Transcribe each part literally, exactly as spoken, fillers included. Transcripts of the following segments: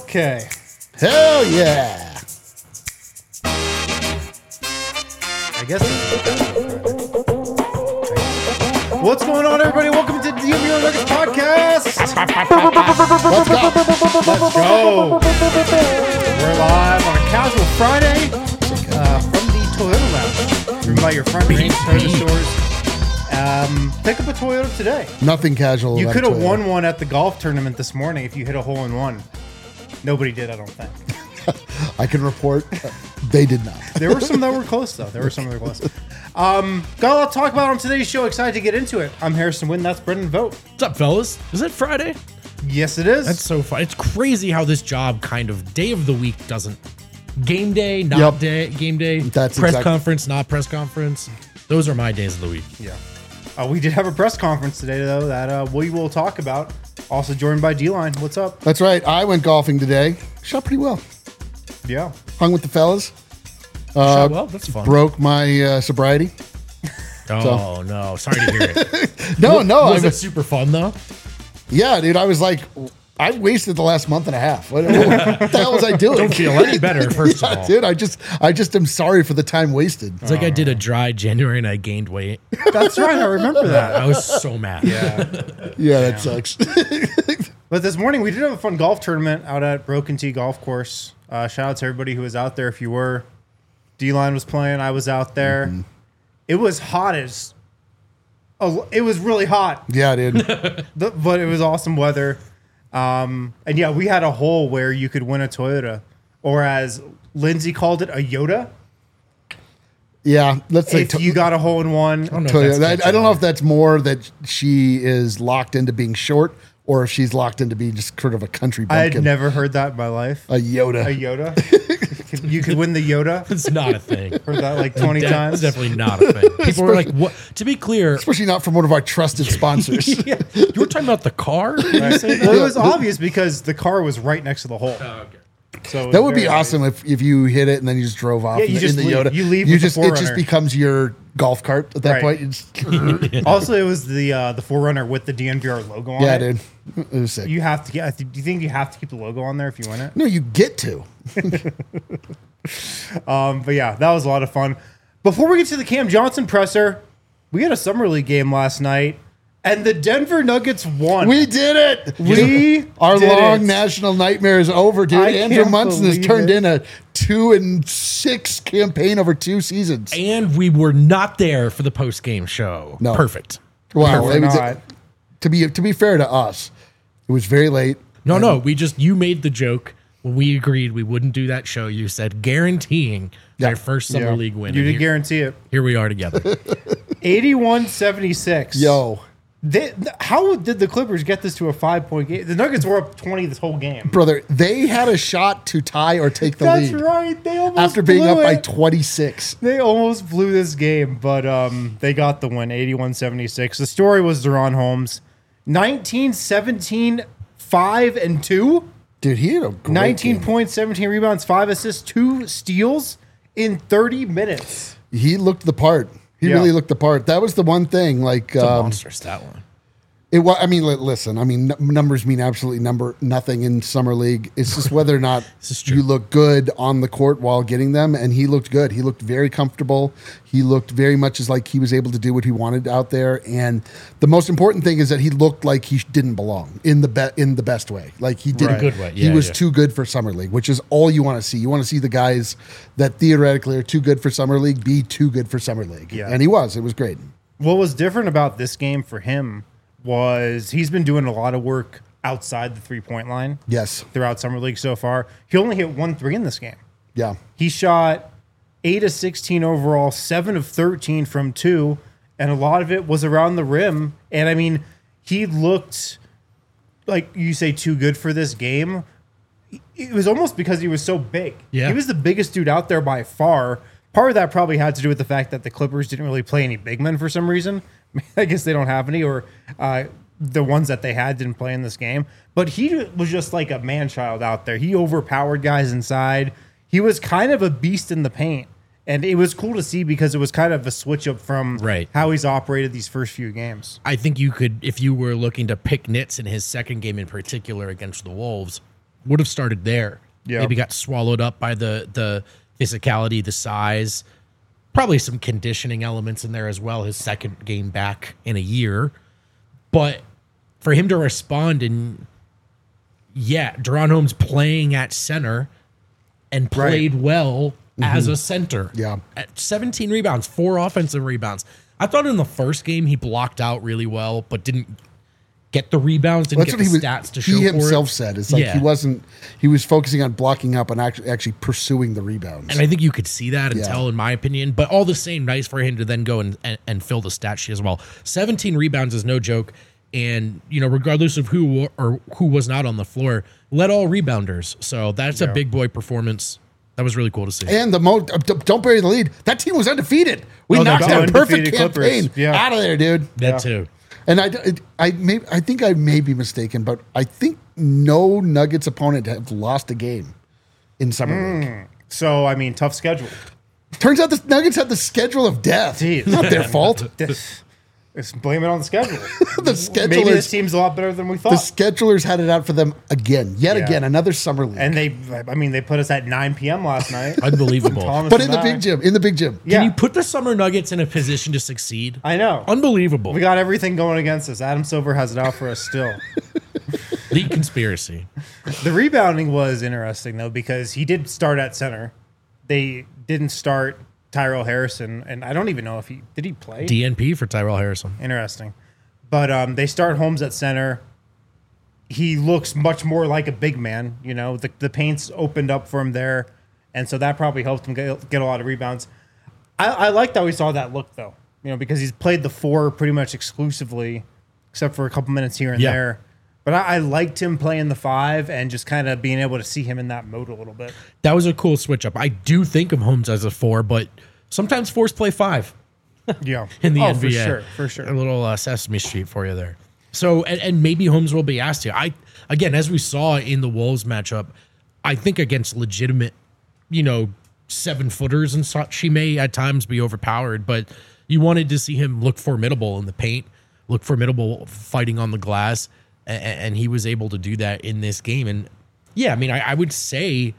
Okay. Hell yeah. I guess. What's going on, everybody? Welcome to the D M V Nuggets podcast. Let's go. Let's go. We're live on a casual Friday uh, from the Toyota Lounge, driven by your front range Toyota stores. Um, pick up a Toyota today. Nothing casual. You about could have Toyota. won one at the golf tournament this morning if you hit a hole in one. Nobody did, I don't think. I can report uh, they did not. There were some that were close, though. There were some that were close. Um, got a lot to talk about on today's show. Excited to get into it. I'm Harrison Wynn. That's Brendan Vogt. What's up, fellas? Is it Friday? Yes, it is. That's so fun. It's crazy how this job kind of day of the week doesn't. Game day, not Yep. day. Game day. That's press exact- conference, not press conference. Those are my days of the week. Yeah. Uh, we did have a press conference today, though, that uh, we will talk about. Also joined by D-Line. What's up? That's right. I went golfing today. Shot pretty well. Yeah. Hung with the fellas. Uh, well, that's fun. Broke my uh, sobriety. Oh no, sorry to hear it. No, no. Was I it super fun though? Yeah, dude. I was like, I wasted the last month and a half. What, what the hell was I doing? Don't feel any better. First Yeah, of all, dude. I just, I just am sorry for the time wasted. it's like I did a dry January and I gained weight. That's right. I remember that. I was so mad. Yeah. Yeah, that sucks. But this morning, we did have a fun golf tournament out at Broken Tee Golf Course. Uh, shout out to everybody who was out there. If you were, D-Line was playing. I was out there. Mm-hmm. It was hot as... Oh, it was really hot. Yeah, dude. The, but it was awesome weather. Um, and yeah, we had a hole where you could win a Toyota, or as Lindsay called it, a Yoda. Yeah, let's say. If to- you got a hole in one, I don't know. to- if that's I, I don't know if that's more that she is locked into being short, or if she's locked into being just sort of a country I bumpkin. had never heard that in my life. a Yoda. A Yoda. You could win the Yoda. It's not a thing. Heard that like twenty De- times. It's definitely not a thing. People were like, "What?" To be clear, Especially not from one of our trusted sponsors. you were talking about the car. Did you say Well, it was obvious because the car was right next to the hole. Oh, okay. So it was That would be very awesome if, if you hit it and then you just drove off Yeah, in, you the, in just the leave- Yoda. you leave You with the just it just Forerunner. becomes your golf cart at that Right. point. You just- nice. Also, it was the uh, the Forerunner with the D N V R logo on yeah, it. dude. It was sick. You have to get. Do you think you have to keep the logo on there if you win it? no, you get to. Um, but yeah, that was a lot of fun. Before we get to the Cam Johnson presser, we had a summer league game last night, and the Denver Nuggets won. We did it. We Our did long it. national nightmare is over, dude. I Andrew can't Munson has believe turned it. in a two and six campaign over two seasons. And we were not there for the post game show. No. Perfect. Wow, We're it was- not. to be to be fair to us, it was very late. No, no, we just you made the joke when we agreed we wouldn't do that show. You said guaranteeing Yeah. their first summer Yeah. league win. You And did here, guarantee it. here we are together. eighty-one seventy-six. Yo, They, th- how did the Clippers get this to a five-point game? The Nuggets were up twenty this whole game. brother, they had a shot to tie or take the That's lead right. They almost after being blew up by it. twenty-six. They almost blew this game, but um, they got the win, eighty-one seventy-six. The story was Deron Holmes, nineteen, seventeen, five, and two. Dude, he had a great nineteen game. points, seventeen rebounds, five assists, two steals in thirty minutes. He looked the part. He Yeah. really looked the part. That was the one thing. Like, It's a um, monster stat line. it was. I mean, li- listen. I mean, n- numbers mean absolutely number nothing in summer league. It's just whether or not This is true. you look good on the court while getting them. And he looked good. He looked very comfortable. He looked very much as like he was able to do what he wanted out there. And the most important thing is that he looked like he didn't belong in the be- in the best way. Like he did Right. Good way. he Yeah, was yeah. too good for summer league, which is all you want to see. You want to see the guys that theoretically are too good for summer league be too good for summer league. Yeah. And he was. It was great. What was different about this game for him was he's been doing a lot of work outside the three-point line Yes. throughout summer league so far. He only hit one three in this game. Yeah. He shot eight of sixteen overall, seven of thirteen from two, and a lot of it was around the rim. And I mean, he looked like you say too good for this game. It was almost because he was so big. Yeah. He was the biggest dude out there by far. Part of that probably had to do with the fact that the Clippers didn't really play any big men for some reason. I guess they don't have any, or uh, the ones that they had didn't play in this game. But he was just like a man-child out there. He overpowered guys inside. He was kind of a beast in the paint. And it was cool to see because it was kind of a switch up from Right. how he's operated these first few games. I think you could, if you were looking to pick nits in his second game in particular against the Wolves, would have started there. Yeah. Maybe got swallowed up by the the physicality, the size, probably some conditioning elements in there as well. His second game back in a year, but for him to respond and yeah, Deron Holmes playing at center and played Right. well as a center. Yeah. At seventeen rebounds, four offensive rebounds. I thought in the first game he blocked out really well, but didn't get the rebounds, didn't That's get what the he was. stats to show He for himself it. said it's like Yeah. he wasn't. He was focusing on blocking up and actually actually pursuing the rebounds. And I think you could see that and Yeah. tell, in my opinion. But all the same, nice for him to then go and, and, and fill the stat sheet as well. seventeen rebounds is no joke. And, you know, regardless of who wa- or who was not on the floor, led all rebounders. So that's a Yeah. big boy performance. That was really cool to see. And the mo uh, d- don't bury the lead. That team was undefeated. We Oh, they're knocked that gone. perfect Undefeated Clippers. campaign Yeah. out of there, dude. that Yeah. too. And I, it- I may, I think I may be mistaken, but I think no Nuggets opponent have lost a game in summer league. So I mean, tough schedule. Turns out the Nuggets had the schedule of death. Jeez, It's not their man. fault. This, let's blame it on the schedule. The Maybe this schedulers, team's a lot better than we the thought. schedulers had it out for them again, yet Yeah. again, another summer league. and they, I mean, they put us at nine p.m. last night. Unbelievable. Thomas but and in the I. big gym, in the big gym. Yeah, Can you put the Summer Nuggets in a position to succeed? I know. Unbelievable. We got everything going against us. Adam Silver has it out for us still. The conspiracy. The rebounding was interesting though because he did start at center. They didn't start Tyrell Harrison, and I don't even know if he did he play. D N P for Tyrell Harrison. Interesting, but um, they start Holmes at center. He looks much more like a big man. You know, the the paint's opened up for him there, and so that probably helped him get, get a lot of rebounds. I, I liked how we saw that look though. You know, because he's played the four pretty much exclusively, except for a couple minutes here and Yeah. there. But I, I liked him playing the five and just kind of being able to see him in that mode a little bit. That was a cool switch up. I do think of Holmes as a four, but sometimes fours play five. Yeah, in the oh, N B A. for sure, for sure. A little uh, Sesame Street for you there. So, and, and maybe Holmes will be asked to. I again, as we saw in the Wolves matchup, I think against legitimate, you know, seven footers and such, she may at times be overpowered. But you wanted to see him look formidable in the paint, look formidable fighting on the glass, and, and he was able to do that in this game. And yeah, I mean, I, I would say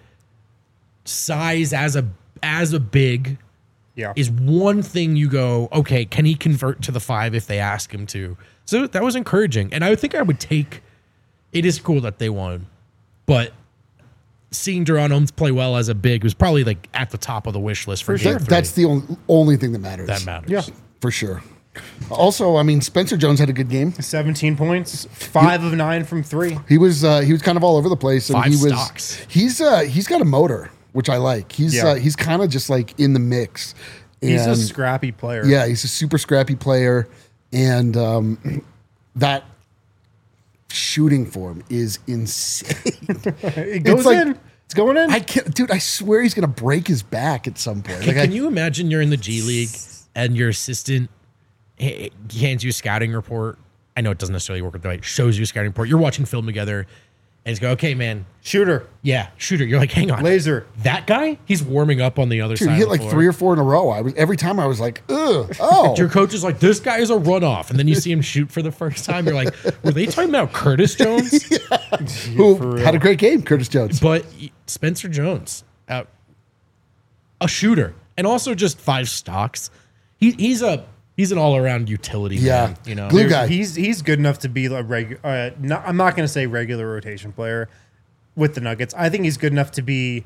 size as a as a big. Yeah, Is one thing you go, okay, can he convert to the five if they ask him to? So that was encouraging. And I would think I would take, it is cool that they won, but seeing Deron Holmes play well as a big was probably like at the top of the wish list for, For game sure. three. That's the only, only thing that matters. That matters. yeah. For sure. Also, I mean, Spencer Jones had a good game. seventeen points, five of nine from three. He was uh, he was kind of all over the place, and Five he was stocks. he's uh, he's got a motor, which I like. He's Yeah. uh, he's kind of just like in the mix. He's a And- scrappy player. yeah, he's a super scrappy player, and um, that shooting form is insane. it goes like- in. It's going in. I can't, dude. I swear he's gonna break his back at some point. Can, Like, I, can you imagine you're in the G League and your assistant h- hands you a scouting report? I know it doesn't necessarily work with the right, shows you a scouting report. You're watching film together, and he's go, okay, man, Shooter, yeah, shooter. You're like, hang on. laser. That guy, he's warming up on the other dude, side. he hit of the like floor. three or four in a row. I was every time I was like, ugh, oh, Your coach is like, this guy is a runoff. And then you see him shoot for the first time. You're like, were they talking about Curtis Jones? who had a great game, Curtis Jones. But Spencer Jones, uh, a shooter, and also just five stocks. He, he's a he's an all around utility Yeah. man. You know, Glue Dude, guy. He's he's good enough to be a regular. Uh, not, I'm not going to say regular rotation player with the Nuggets. I think he's good enough to be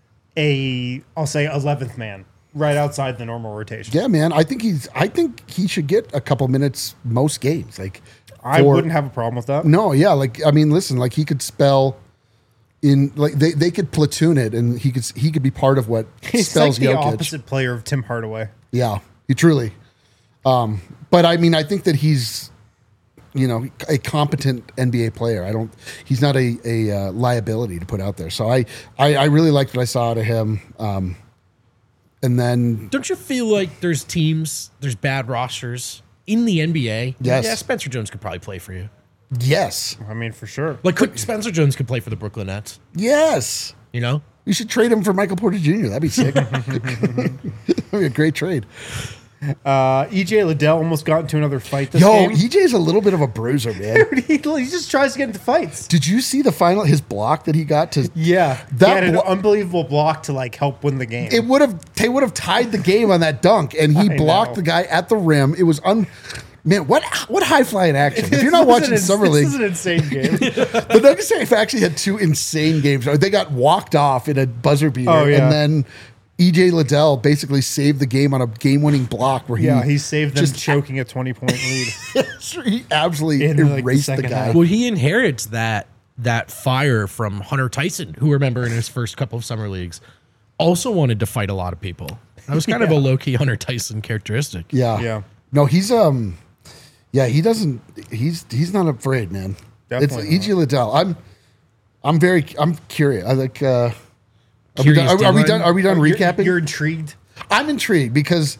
a I'll say eleventh man right outside the normal rotation. Yeah, man. I think he's. I think he should get a couple minutes most games. Like, I for- wouldn't have a problem with that. No, yeah. Like, I mean, listen. Like, he could spell in. Like, they, they could platoon it, and he could he could be part of what He's spells like the Jokic. opposite player of Tim Hardaway. Yeah, he truly. Um, but I mean, I think that he's, you know, a competent N B A player. I don't. He's not a a uh, liability to put out there. So I, I I really liked what I saw out of him. Um, and then don't you feel like there's teams, there's bad rosters in the N B A? Yes. Yeah, Spencer Jones could probably play for you. yes, I mean, for sure. Like, could, Spencer Jones could play for the Brooklyn Nets. yes. You know, You should trade him for Michael Porter Junior That'd be sick. That'd be a great trade. Uh, E J Liddell almost got into another fight this Yo, game. E J's a little bit of a bruiser, man. he, he just tries to get into fights. Did you see the final, his block that he got to? Yeah, That he had an blo- unbelievable block to like help win the game. It would have, they would have tied the game on that dunk, and he I blocked know. the guy at the rim. It was un. Man, what what high flying action! If you're not This watching is an- Summer League, this is an insane game. the Nuggets have actually had two insane games. They got walked off in a buzzer beater, Oh, yeah. and then E J Liddell basically saved the game on a game-winning block where he yeah, he saved them just choking a twenty-point lead. he absolutely In, like, the erased the, second guy. half. Well, he inherits that that fire from Hunter Tyson, who remember in his first couple of summer leagues also wanted to fight a lot of people. That was kind of a low key Hunter Tyson characteristic. Yeah, Yeah. No, he's um, yeah, he doesn't. He's he's not afraid, man. Definitely It's E J Liddell. I'm I'm very I'm curious. I like. Uh, Are we, Curious done, are, are we Dylan? done? Are we done You're- recapping? You're intrigued. I'm intrigued because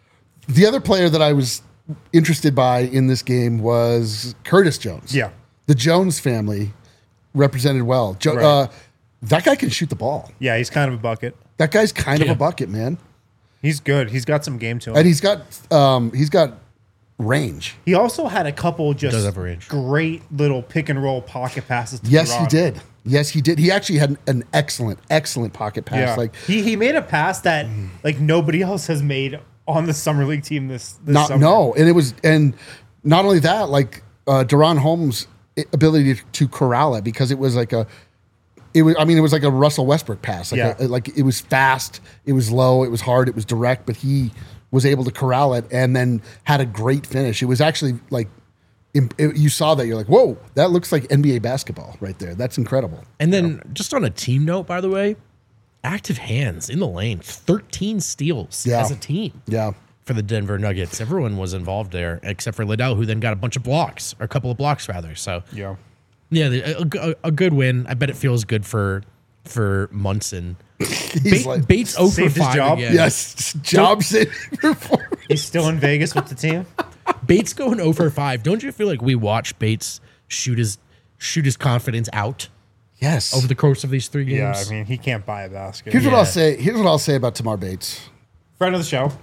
the other player that I was interested by in this game was Curtis Jones. Yeah. The Jones family represented well. Jo- Right. uh, that guy can shoot the ball. Yeah, he's kind of a bucket. That guy's kind of Yeah. a bucket, man. He's good. He's got some game to him. And he's got um, he's got range. He also had a couple just does have range. great little pick and roll pocket passes. To Yes, he Gerard. did. Yes, he did. He actually had an excellent, excellent pocket pass. Yeah, Like he he made a pass that like nobody else has made on the summer league team this. this not summer. no, and it was and not only that, like uh, Deron Holmes' ability to, to corral it because it was like a. It was. I mean, it was like a Russell Westbrook pass. Like, Yeah. a, like it was fast. It was low. It was hard. It was direct. But he was able to corral it and then had a great finish. It was actually like im- it- you saw that. You're like, whoa, that looks like N B A basketball right there. That's incredible. And then just on a team note, by the way, active hands in the lane, thirteen steals Yeah. as a team Yeah. for the Denver Nuggets. Everyone was involved there except for Liddell, who then got a bunch of blocks, or a couple of blocks rather. So Yeah. yeah, the- a, a, a good win. I bet it feels good for for Munson. He's Ba- like, Bates oh for saved his five job? again. yes, job saving performance. He's still in Vegas with the team. Bates going oh for five. Don't you feel like we watched Bates shoot his shoot his confidence out Yes. over the course of these three Yeah, games? I mean he can't buy a basket. Here's what Yeah. I'll say. Here's what I'll say about Tamar Bates. Friend of the show,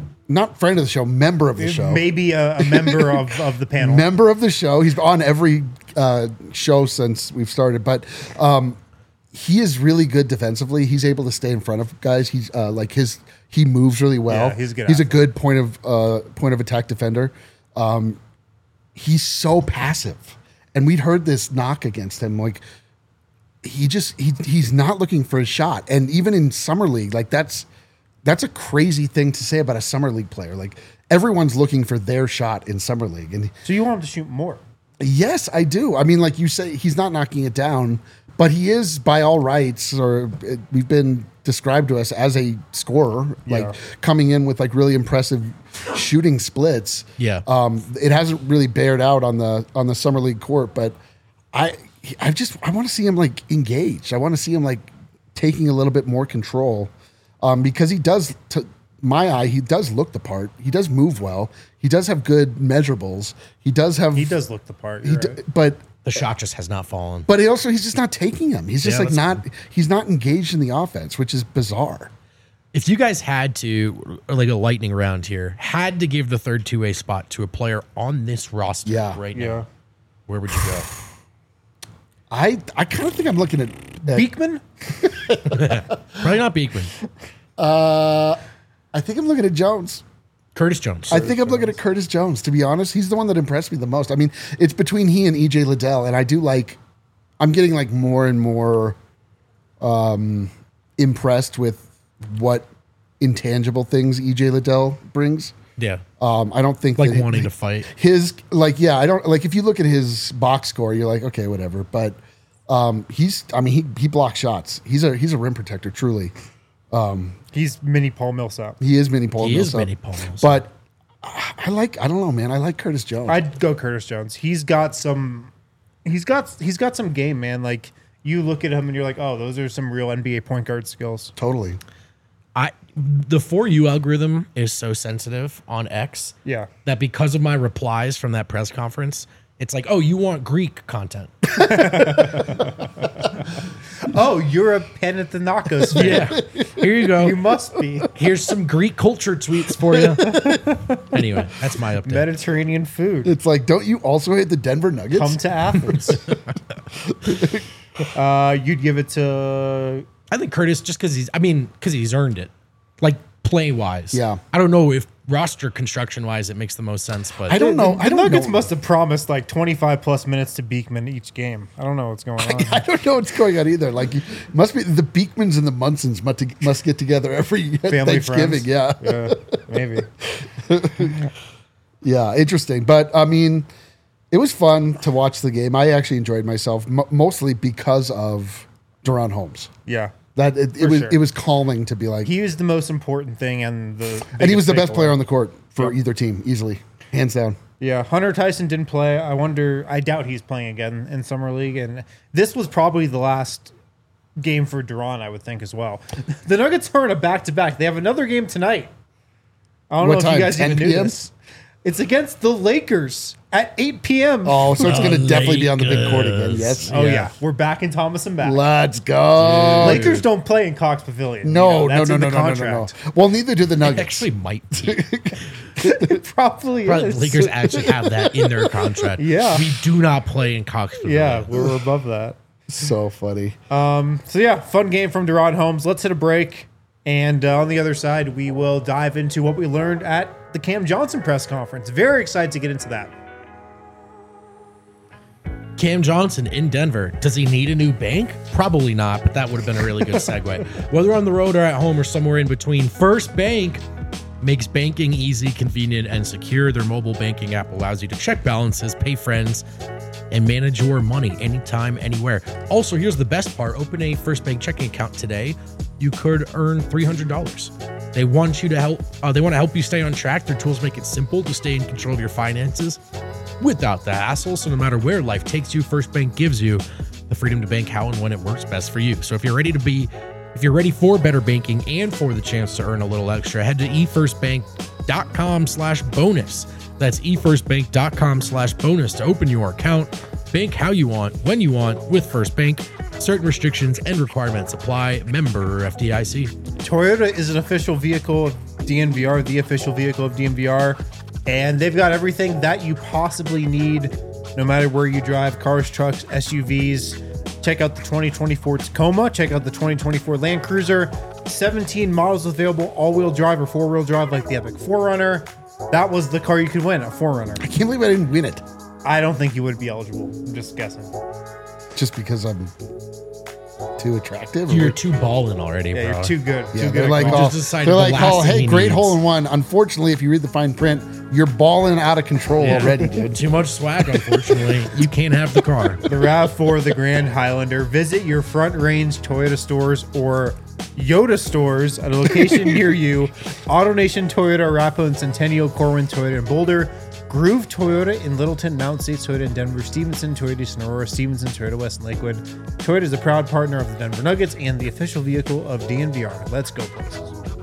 Not friend of the show, member of the show. maybe a, a member of, of the panel. Member of the show. He's on every uh, show since we've started, but um, he is really good defensively. He's able to stay in front of guys. He's uh, like his he moves really well. Yeah, he's a good He's a athlete. good point of uh, point of attack defender. Um, he's so passive, and we'd heard this knock against him. Like he just he he's not looking for a shot, and even in summer league, like that's that's a crazy thing to say about a summer league player. Like everyone's looking for their shot in summer league, and So you want him to shoot more? yes, I do. I mean, like you say, he's not knocking it down, but he is by all rights, or it, we've been described to us as a scorer, like Yeah. coming in with like really impressive shooting splits. Yeah. Um, it hasn't really bared out on the on the summer league court, but I I just I want to see him like engaged. I want to see him like taking a little bit more control, um, because he does. To my eye, he does look the part. He does move well. He does have good measurables. He does have. He does look the part. He You're d- right. but The shot just has not fallen. but he also he's just not taking them. He's just Yeah, like that's not. He's not engaged in the offense, which is bizarre. If you guys had to, or like a lightning round here, had to give the third two way spot to a player on this roster Yeah. right now, Yeah. where would you go? I I kind of think I'm looking at. at Beekman? Probably not Beekman. I think I'm looking at Jones. Curtis Jones. I think I'm looking at Curtis Jones. To be honest, he's the one that impressed me the most. I mean, it's between he and E J Liddell, and I do like. I'm getting like more and more um, impressed with what intangible things E J Liddell brings. yeah. Um, I don't think Like that wanting to fight. his like yeah I don't like if you look at his box score you're like okay whatever but um, he's I mean he he blocks shots. He's a he's a rim protector truly. He's mini Paul Millsap. He is mini Paul. He is Millsap. mini Paul Millsap. But I I like I don't know man I like Curtis Jones. I'd go Curtis Jones. He's got some. He's got he's got some game, man. Like you look at him and you're like, oh, those are some real N B A point guard skills. Totally. I the For You algorithm is so sensitive on X Yeah. that because of my replies from that press conference, it's like, oh, you want Greek content. Oh, you're a Panathinaikos fan. Yeah. Here you go. You must be. Here's some Greek culture tweets for you. Anyway, that's my update. Mediterranean food. It's like, don't you also hate the Denver Nuggets? Come to Athens. uh, you'd give it to... I think Curtis, just because he's, I mean, because he's earned it. Like, play wise. Yeah. I don't know if roster construction wise it makes the most sense, but I don't know. The I don't Nuggets know. must have promised like twenty-five plus minutes to Beekman each game. I don't know what's going on. I don't know what's going on either. Like, must be the Beekmans and the Munsons must, must get together every Family Thanksgiving. friends. Yeah. Yeah, maybe. Yeah, interesting. But I mean, it was fun to watch the game. I actually enjoyed myself m- mostly because of Duran Holmes. Yeah. That it, it For was sure. it was calming to be like, He was the most important thing and the and he was the biggest best player takeaway. on the court for Yep. either team, easily, hands down. Yeah, Hunter Tyson didn't play. I wonder. I doubt he's playing again in summer league, and this was probably the last game for Duran, I would think as well. The Nuggets are in a back to back. They have another game tonight. I don't What know if time? you guys even 10 knew p.m.? this. It's against the Lakers at eight p.m. Oh, so it's going to definitely be on the big court again. Lakers. Yes. Oh, yeah. We're back in Thomas and back. Let's go. Lakers don't play in Cox Pavilion. No, You know, no, that's no, in no, the no, no, no, no. contract. Well, neither do the it Nuggets. actually might be. It probably Probably is. Lakers actually have that in their contract. Yeah. We do not play in Cox Yeah, Pavilion. we're above that. So funny. So yeah, fun game from Duran Holmes. Let's hit a break, and uh, on the other side, we will dive into what we learned at the Cam Johnson press conference. Very excited to get into that. Cam Johnson in Denver. Does he need a new bank? Probably not, but that would have been a really good segue. Whether on the road or at home or somewhere in between, First Bank makes banking easy, convenient, and secure. Their mobile banking app allows you to check balances, pay friends, and manage your money anytime, anywhere. Also, here's the best part. Open a First Bank checking account today. You could earn three hundred dollars. They want you to help. Uh, they want to help you stay on track. Their tools make it simple to stay in control of your finances without the hassle. So no matter where life takes you, First Bank gives you the freedom to bank how and when it works best for you. So if you're ready to be, if you're ready for better banking and for the chance to earn a little extra, head to efirstbank.com slash bonus. That's efirstbank.com slash bonus to open your account. Bank how you want, when you want with First Bank. Certain restrictions and requirements apply. Member F D I C. Toyota is an official vehicle of D N V R, the official vehicle of D N V R, and they've got everything that you possibly need, no matter where you drive, cars, trucks, S U Vs. Check out the twenty twenty-four Tacoma. Check out the twenty twenty-four Land Cruiser. seventeen models available, all-wheel drive or four-wheel drive, like the Epic four runner. That was the car you could win, a four runner. I can't believe I didn't win it I don't think you would be eligible. I'm just guessing. just because I'm too attractive. or You're what? too ballin' already, Yeah, bro. you're too good. Yeah, too they're good. like, at oh, golf. Just decided they're the like, last oh, thing hey, he great needs. hole in one. Unfortunately, if you read the fine print, you're balling out of control Yeah. already, dude. Too much swag, unfortunately. You can't have the car. The RAV four, the Grand Highlander. Visit your Front Range Toyota stores or Yoda stores at a location near you. AutoNation Toyota, Arapahoe and Centennial, Corwin Toyota in Boulder, Groove Toyota in Littleton, Mount States Toyota in Denver, Stevenson Toyota Sonora, Stevenson Toyota West in Lakewood. Toyota is a proud partner of the Denver Nuggets and the official vehicle of D N V R. Let's go places.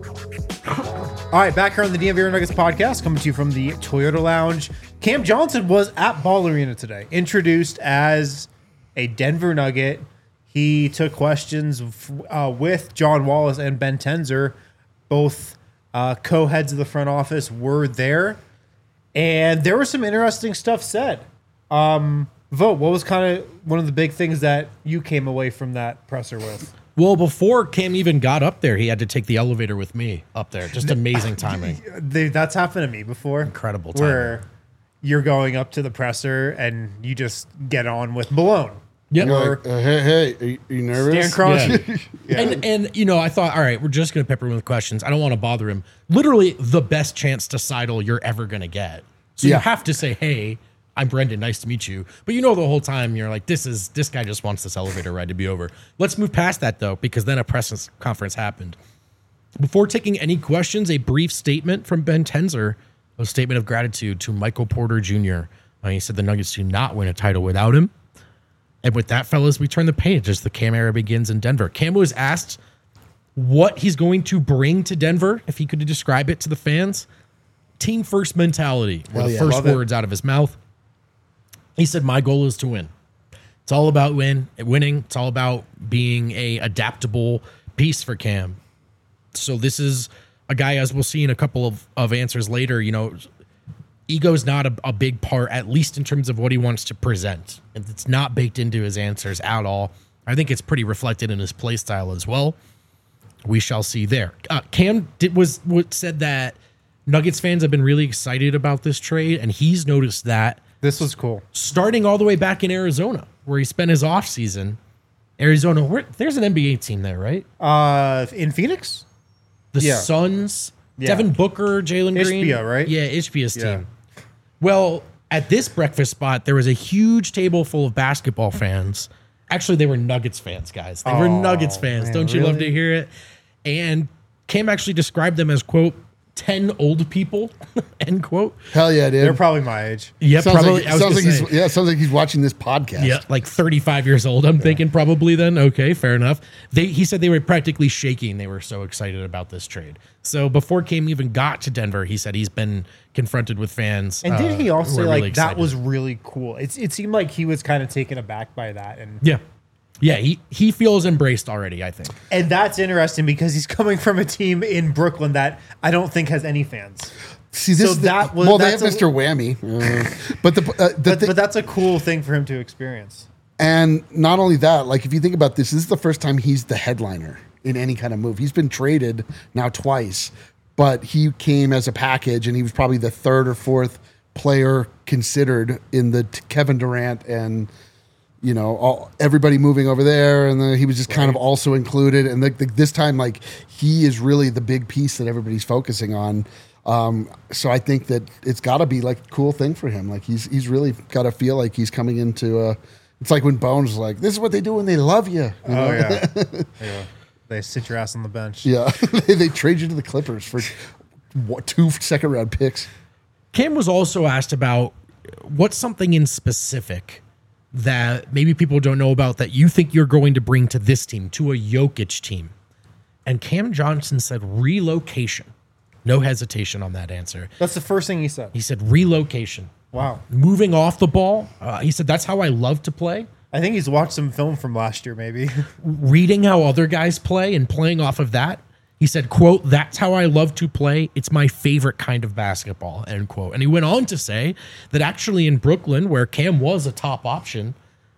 All right, back here on the D N V R Nuggets podcast, coming to you from the Toyota Lounge. Cam Johnson was at Ball Arena today, introduced as a Denver Nugget. He took questions uh, with John Wallace and Ben Tenzer. Both uh, co-heads of the front office were there, and there was some interesting stuff said. Um, Vote, what was kind of one of the big things that you came away from that presser with? Well, before Cam even got up there, he had to take the elevator with me up there. Just amazing timing. They, that's happened to me before. Incredible timing. Where you're going up to the presser and you just get on with Malone. Yep. You're Or like, uh, hey, hey, are you, are you nervous? Stan Crosby. Yeah. And and you know, I thought, all right, we're just gonna pepper him with questions. I don't want to bother him. Literally, the best chance to sidle you're ever gonna get. So Yeah. you have to say, "Hey, I'm Brendan. Nice to meet you." But you know, the whole time you're like, "This is this guy just wants this elevator ride to be over." Let's move past that though, because then a press conference happened. Before taking any questions, a brief statement from Ben Tenzer, a statement of gratitude to Michael Porter Junior Uh, he said the Nuggets do not win a title without him. And with that, fellas, we turn the page as the Cam era begins in Denver. Cam was asked what he's going to bring to Denver, if he could describe it to the fans. Team first mentality were Hell the yeah. first Love it. words out of his mouth. He said, my goal is to win. It's all about win, winning. It's all about being a adaptable piece for Cam. So this is a guy, as we'll see in a couple of, of answers later, you know, ego's not a, a big part, at least in terms of what he wants to present. And it's not baked into his answers at all. I think it's pretty reflected in his play style as well. We shall see there. Uh, Cam did, was what said that Nuggets fans have been really excited about this trade, and he's noticed that This was cool. starting all the way back in Arizona, where he spent his offseason. Arizona, where, there's an N B A team there, right? Uh, in Phoenix? The Yeah. Suns, Yeah. Devin Booker, Jalen Green. Ishbia, right? Yeah, Ishbia's Yeah. team. Well, at this breakfast spot, there was a huge table full of basketball fans. Actually, they were Nuggets fans, guys. They were Oh, Nuggets fans. man, Don't you love really? to hear it? And Cam actually described them as, quote, ten old people, end quote. Hell yeah, dude. They're probably my age. Yeah, sounds probably. like, I was sounds gonna like say. he's yeah, sounds like he's watching this podcast. Yeah, like thirty-five years old. I'm thinking probably then. Okay, fair enough. They he said they were practically shaking. They were so excited about this trade. So before Cam even got to Denver, he said he's been confronted with fans. And did uh, he also who say are like really that excited. was really cool? It's it seemed like he was kind of taken aback by that, and Yeah. Yeah, he, he feels embraced already, I think. and that's interesting because he's coming from a team in Brooklyn that I don't think has any fans. See, this So is the- that was- well, they have that's a- Mister Whammy, uh, but the uh, the But thi- but that's a cool thing for him to experience. and not only that, like if you think about this, this is the first time he's the headliner in any kind of move. He's been traded now twice, but he came as a package, and he was probably the third or fourth player considered in the t- Kevin Durant and you know all, everybody moving over there, and then he was just kind of also included. And the, the, this time, like he is really the big piece that everybody's focusing on. Um, so I think that it's got to be like a cool thing for him. Like he's he's really got to feel like he's coming into a. It's like when Bones was like, "This is what they do when they love you." you know? Oh yeah, yeah. They sit your ass on the bench. Yeah, they, they trade you to the Clippers for what, two second round picks. Cam was also asked about what's something in specific that maybe people don't know about that you think you're going to bring to this team, to a Jokic team. And Cam Johnson said relocation. No hesitation on that answer. That's the first thing he said. He said relocation. Wow. Moving off the ball. Uh, he said, that's how I love to play. I think he's watched some film from last year, maybe. Reading how other guys play and playing off of that. He said, quote, that's how I love to play. It's my favorite kind of basketball, end quote. And he went on to say that actually in Brooklyn, where Cam was a top option,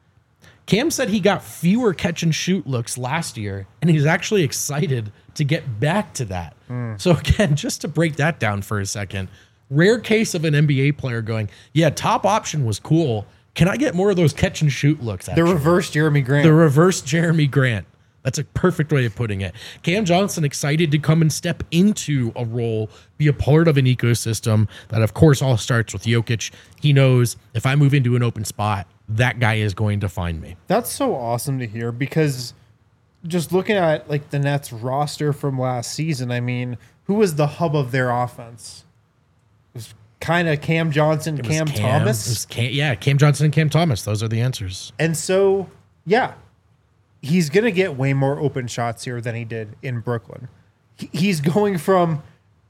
Cam said he got fewer catch and shoot looks last year, and he's actually excited to get back to that. Mm. So again, just to break that down for a second, rare case of an N B A player going, yeah, top option was cool. Can I get more of those catch and shoot looks? The Actually? reverse Jeremy Grant. The reverse Jeremy Grant. That's a perfect way of putting it. Cam Johnson excited to come and step into a role, be a part of an ecosystem that, of course, all starts with Jokic. He knows if I move into an open spot, that guy is going to find me. That's so awesome to hear because just looking at like the Nets roster from last season, I mean, who was the hub of their offense? It was kind of Cam Johnson, It was Cam, it Thomas. was Cam- yeah, Cam Johnson and Cam Thomas. Those are the answers. And so, yeah, he's going to get way more open shots here than he did in Brooklyn. He- He's going from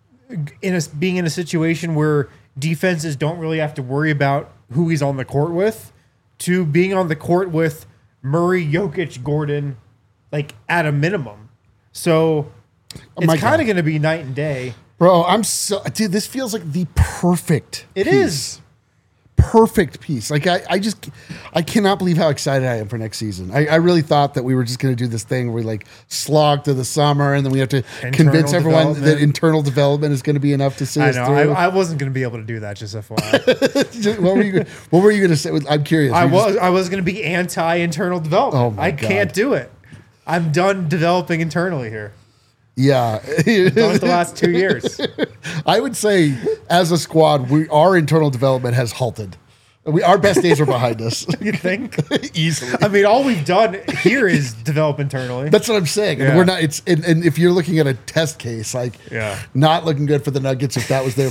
in a, being in a situation where defenses don't really have to worry about who he's on the court with to being on the court with Murray, Jokic, Gordon, like at a minimum. So Oh my it's kind God. of going to be night and day. Bro, I'm so dude. This feels like the perfect. It piece. is. Perfect piece. Like I, I just, I cannot believe how excited I am for next season. I, I really thought that we were just going to do this thing where we like slog to the summer, and then we have to Internal convince everyone that development. internal development is going to be enough to see I us know. through. I, I wasn't going to be able to do that, just F Y I. Just- what were you? What were you going to say? I'm curious. I You just- was I was going to be anti internal development. Oh my I can't God. do it. I'm done developing internally here. Yeah. Done it the last two years. I would say, as a squad, we our internal development has halted. We our best days are behind us. You think? Easily. I mean, all we've done here is develop internally. That's what I'm saying. And Yeah. we're not. It's and, and if you're looking at a test case, like Yeah. not looking good for the Nuggets if that was their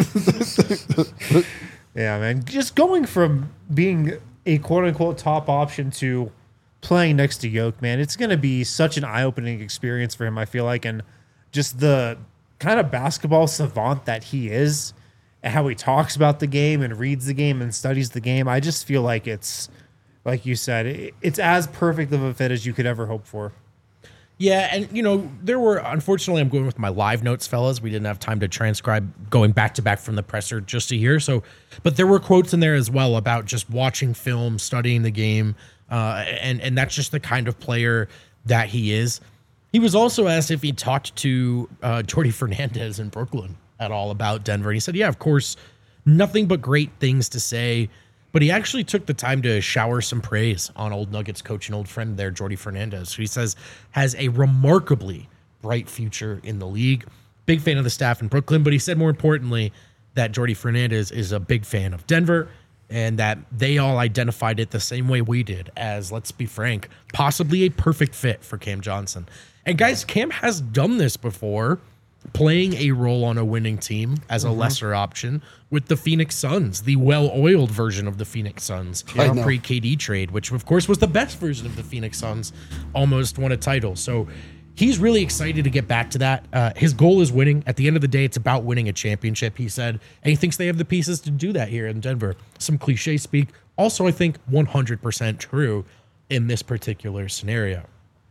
plan. Yeah, man. Just going from being a quote unquote top option to playing next to Yoke, man, it's going to be such an eye opening experience for him, I feel like. And just the kind of basketball savant that he is and how he talks about the game and reads the game and studies the game. I just feel like it's like you said, it, it's as perfect of a fit as you could ever hope for. Yeah, and you know, there were, unfortunately, I'm going with my live notes, fellas. We didn't have time to transcribe going back to back from the presser just to hear. So, but there were quotes in there as well about just watching film, studying the game, uh, and and that's just the kind of player that he is. He was also asked if he talked to uh, Jordi Fernandez in Brooklyn at all about Denver. And he said, yeah, of course, nothing but great things to say. But he actually took the time to shower some praise on old Nuggets coach and old friend there, Jordi Fernandez, who he says has a remarkably bright future in the league. Big fan of the staff in Brooklyn, but he said more importantly that Jordi Fernandez is a big fan of Denver and that they all identified it the same way we did as, let's be frank, possibly a perfect fit for Cam Johnson. And guys, Cam has done this before, playing a role on a winning team as a mm-hmm. lesser option with the Phoenix Suns, the well-oiled version of the Phoenix Suns pre-K D trade, which of course was the best version of the Phoenix Suns, almost won a title. So he's really excited to get back to that. Uh, his goal is winning. At the end of the day, it's about winning a championship, he said, and he thinks they have the pieces to do that here in Denver. Some cliche speak. Also, I think one hundred percent true in this particular scenario.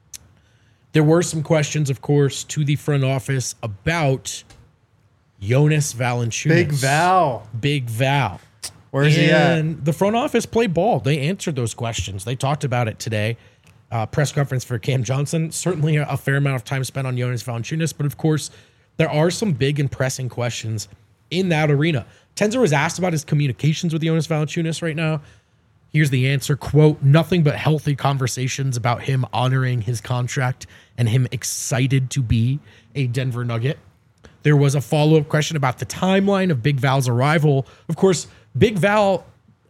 There were some questions, of course, to the front office about Jonas Valanciunas. Big Val. Big Val. Where's he at? And the front office played ball. They answered those questions. They talked about it today. Uh, press conference for Cam Johnson. Certainly a, a fair amount of time spent on Jonas Valanciunas, but of course, there are some big and pressing questions in that arena. Tenzer was asked about his communications with Jonas Valanciunas right now. Here's the answer, quote, nothing but healthy conversations about him honoring his contract and him excited to be a Denver Nugget. There was a follow-up question about the timeline of Big Val's arrival. Of course, Big Val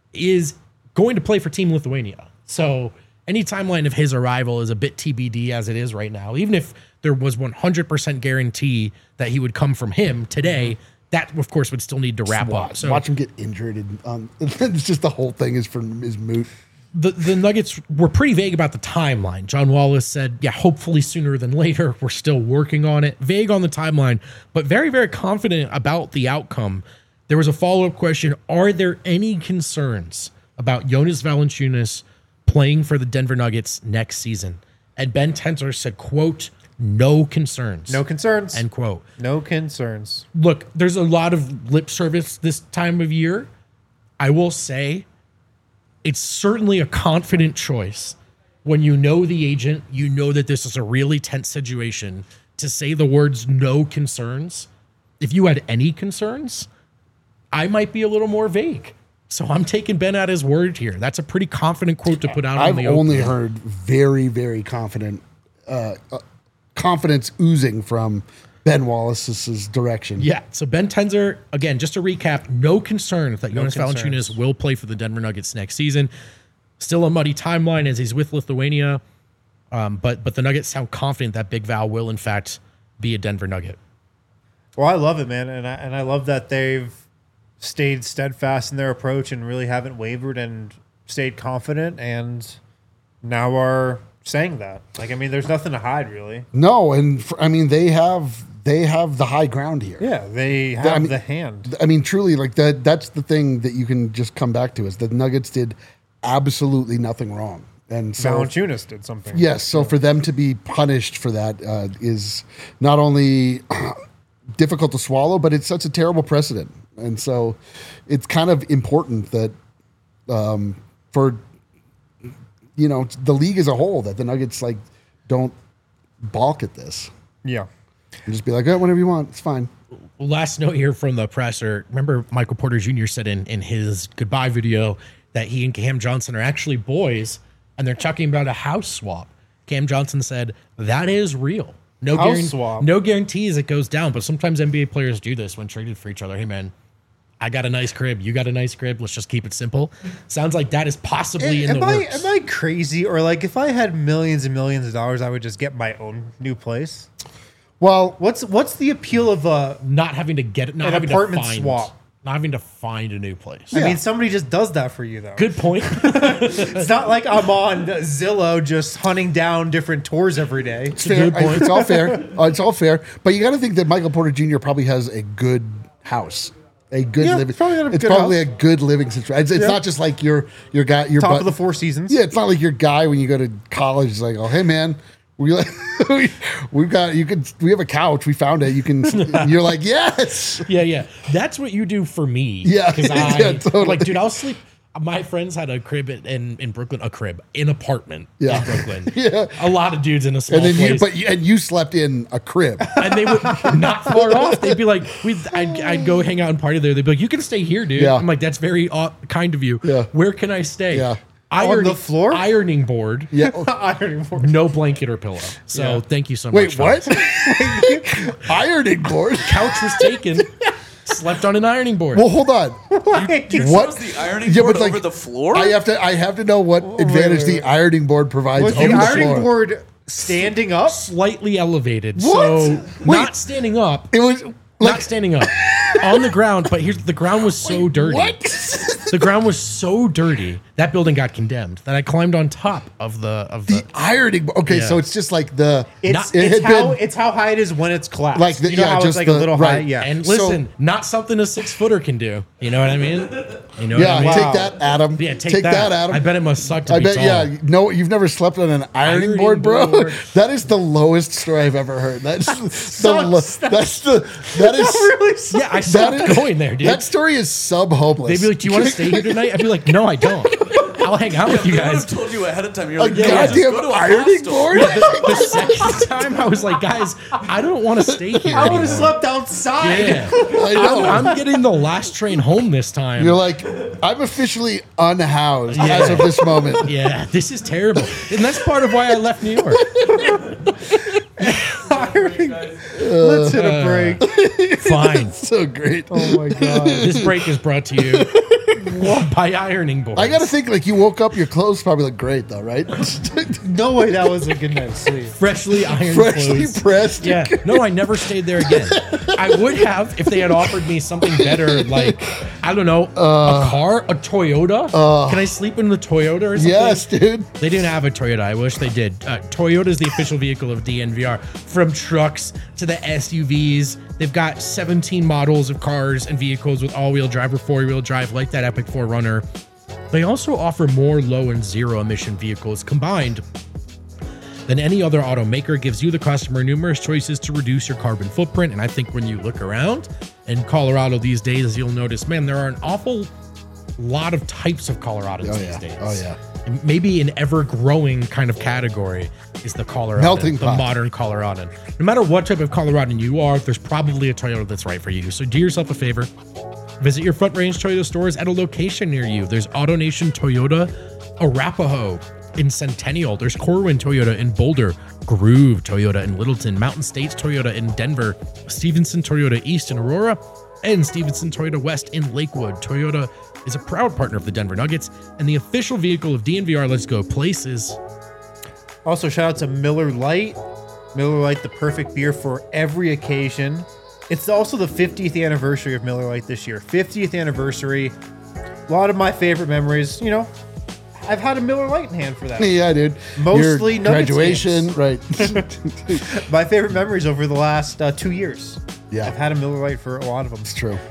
is going to play for Team Lithuania. So any timeline of his arrival is a bit T B D as it is right now. Even if there was one hundred percent guarantee that he would come from him today, that, of course, would still need to wrap watch, up. So watch him get injured. And um, it's just the whole thing is from is moot. The, the Nuggets were pretty vague about the timeline. John Wallace said, yeah, hopefully sooner than later. We're still working on it. Vague on the timeline, but very, very confident about the outcome. There was a follow-up question. Are there any concerns about Jonas Valanciunas playing for the Denver Nuggets next season? And Ben Tenzer said, quote, no concerns. No concerns. End quote. No concerns. Look, there's a lot of lip service this time of year. I will say it's certainly a confident choice when you know the agent, you know that this is a really tense situation, to say the words no concerns. If you had any concerns, I might be a little more vague. So I'm taking Ben at his word here. That's a pretty confident quote to put out I've on the only open. heard very, very confident uh, uh, confidence oozing from Ben Wallace's direction. Yeah. So Ben Tenzer, again, just to recap, no concern that No Jonas concerns. Valanciunas will play for the Denver Nuggets next season. Still a muddy timeline as he's with Lithuania, um, but but the Nuggets sound confident that Big Val will in fact be a Denver Nugget. Well, I love it, man, and I and I love that they've stayed steadfast in their approach and really haven't wavered and stayed confident, and now are saying that. Like, I mean, there's nothing to hide, really. No, and for, I mean they have they have the high ground here. Yeah, they have I mean, the hand. I mean, truly, like that. That's the thing that you can just come back to is the Nuggets did absolutely nothing wrong, and so Valanciunas did something. yes. So for them to be punished for that uh, is not only difficult to swallow, but it sets a terrible precedent. And so it's kind of important that um, for you know the league as a whole that the Nuggets like don't balk at this Yeah. and just be like, oh, whatever you want, it's fine. Last note here from the presser. Remember Michael Porter Junior said in, in his goodbye video that he and Cam Johnson are actually boys and they're talking about a house swap. Cam Johnson said, that is real. No, House guaran- swap. no guarantees it goes down, but sometimes N B A players do this when traded for each other. Hey, man, I got a nice crib. You got a nice crib. Let's just keep it simple. Sounds like that is possibly in am the I, works. Am I crazy? Or like if I had millions and millions of dollars, I would just get my own new place? Well, What's what's the appeal of a Not having to get it, not An having apartment to find, swap. not having to find a new place. I mean, somebody just does that for you, though. Good point. It's not like I'm on Zillow just hunting down different tours every day. it's fair. good point. It's all fair. Uh, it's all fair. But you got to think that Michael Porter Junior probably has a good house A good Yeah, living. it's probably a It's good probably house. a good living situation. It's, it's Yeah. not just like your your guy your Top butt- of the Four Seasons. Yeah, it's not like your guy when you go to college is like, oh hey man, we like we, we've got you can we have a couch, we found it. You can you're like, yes. Yeah, yeah. That's what you do for me. Yeah, Because I yeah, totally. like, dude, I'll sleep. My friends had a crib in, in, in Brooklyn, a crib, an apartment Yeah. in Brooklyn. Yeah. A lot of dudes in a small And then you place. but you, and you slept in a crib. and they would not far off. They'd be like, we'd, I'd, I'd go hang out and party there. They'd be like, you can stay here, dude. Yeah. I'm like, that's very uh, kind of you. Yeah. Where can I stay? Yeah. Ironing, the floor? Ironing board. Yeah. Ironing board. No blanket or pillow. So Yeah. thank you so Wait, much. what? folks. Ironing board. Couch was taken. Slept on an ironing board. Well, hold on. You What? chose the ironing Yeah, board but, like, over the floor? I have to I have to know what advantage wait, the wait. ironing board provides Was over the the ironing floor. board standing up? Slightly elevated. What? So Wait. not standing up. It was not like standing up. On the ground, but here's the ground was so dirty. what? The ground was so dirty that building got condemned. That I climbed on top of the of the. The ironing board. Okay, Yeah. so it's just like the It's, Not- it it's had how been- it's how high it is when it's collapsed. Like the- you know yeah, how just it's like the- a little high. right. Yeah. and So- listen, not something a six footer can do. You know what I mean? You know yeah, what I mean? take that, Adam. Yeah, take, that. that, Adam. I bet it must suck to I be bet, tall. yeah. No, you've never slept on an ironing, Ironing board, bro. board. That is the lowest story I've ever heard. That's the Sucks. lo- that's the that is really sucks. Yeah, I that stopped is going there, dude. That story is sub hopeless. They'd be like, "Do you want to stay here tonight?" I'd be like, "No, I don't. I'll hang out with you They would guys." have told you ahead of time. You're a like, yeah, just goddamn go to a ironing hostel. board? The second time, I was like, "Guys, I don't want to stay here." I would anymore. have slept outside. Yeah, I know. I'm, I'm getting the last train home this time. You're like, I'm officially unhoused as of this moment. Yeah, this is terrible, and that's part of why I left New York. Let's hit a break. Fine. So great. Oh my god. This break is brought to you by ironing boards. I gotta think like you woke up, your clothes probably look great though, right? No way that was a good night's sleep. freshly ironed Freshly clothes. pressed. Yeah, no, I never stayed there again. I would have if they had offered me something better, like I don't know, Uh, a car, a Toyota. Can I sleep in the Toyota or something? Yes, dude. They didn't have a Toyota. I wish they did. Uh, Toyota is the official vehicle of D N V R. From trucks to the S U Vs, they've got seventeen models of cars and vehicles with all-wheel drive or four-wheel drive, like that Epic four runner. They also offer more low and zero-emission vehicles combined than any other automaker. Gives you, the customer, numerous choices to reduce your carbon footprint. And I think when you look around in Colorado these days, you'll notice, man, there are an awful lot of types of Coloradans Oh, these yeah. days. Oh, yeah. And maybe an ever-growing kind of category is the Colorado, Melting the pot. modern Coloradan. No matter what type of Coloradan you are, there's probably a Toyota that's right for you. So do yourself a favor. Visit your Front Range Toyota stores at a location near you. There's AutoNation Toyota Arapahoe in Centennial. There's Corwin Toyota in Boulder, Groove Toyota in Littleton, Mountain States Toyota in Denver, Stevenson Toyota East in Aurora, and Stevenson Toyota West in Lakewood. Toyota is a proud partner of the Denver Nuggets and the official vehicle of D N V R Let's Go Places. Also, shout out to Miller Lite. Miller Lite, the perfect beer for every occasion. It's also the fiftieth anniversary of Miller Lite this year. fiftieth anniversary. A lot of my favorite memories, you know, I've had a Miller Lite in hand for that. Yeah, dude. Mostly Your Nuggets graduation, games. right? My favorite memories over the last uh, two years. Yeah. I've had a Miller Lite for a lot of them. It's true.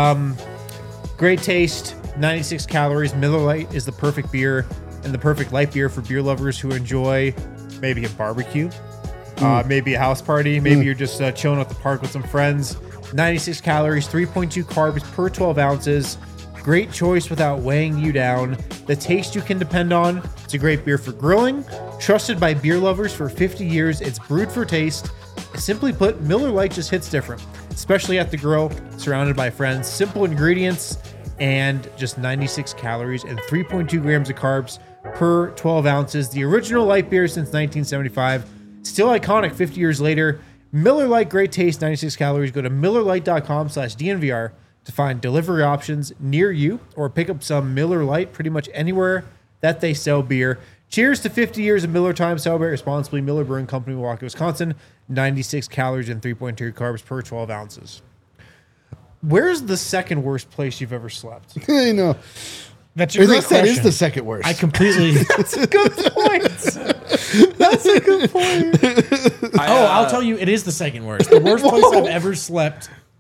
Great taste, ninety-six calories. Miller Lite is the perfect beer and the perfect light beer for beer lovers who enjoy maybe a barbecue, uh, maybe a house party, maybe you're just uh, chilling at the park with some friends. ninety-six calories, three point two carbs per twelve ounces. Great choice without weighing you down. The taste you can depend on. It's a great beer for grilling. Trusted by beer lovers for fifty years. It's brewed for taste. Simply put, Miller Lite just hits different, especially at the grill, surrounded by friends. Simple ingredients and just ninety-six calories and three point two grams of carbs per twelve ounces. The original light beer since nineteen seventy-five. Still iconic fifty years later. Miller Lite, great taste, ninety-six calories. Go to millerlite.com slash DNVR to find delivery options near you or pick up some Miller Lite pretty much anywhere that they sell beer. Cheers to fifty years of Miller time. Celebrate responsibly. Miller Brewing Company, Milwaukee, Wisconsin. ninety-six calories and three point two carbs per twelve ounces. Where's the second worst place you've ever slept? I know. That's a Or great that, that is question. the second worst. I completely. That's a good point. That's a good point. I, Oh, uh, I'll tell you, it is the second worst. The worst place I've ever slept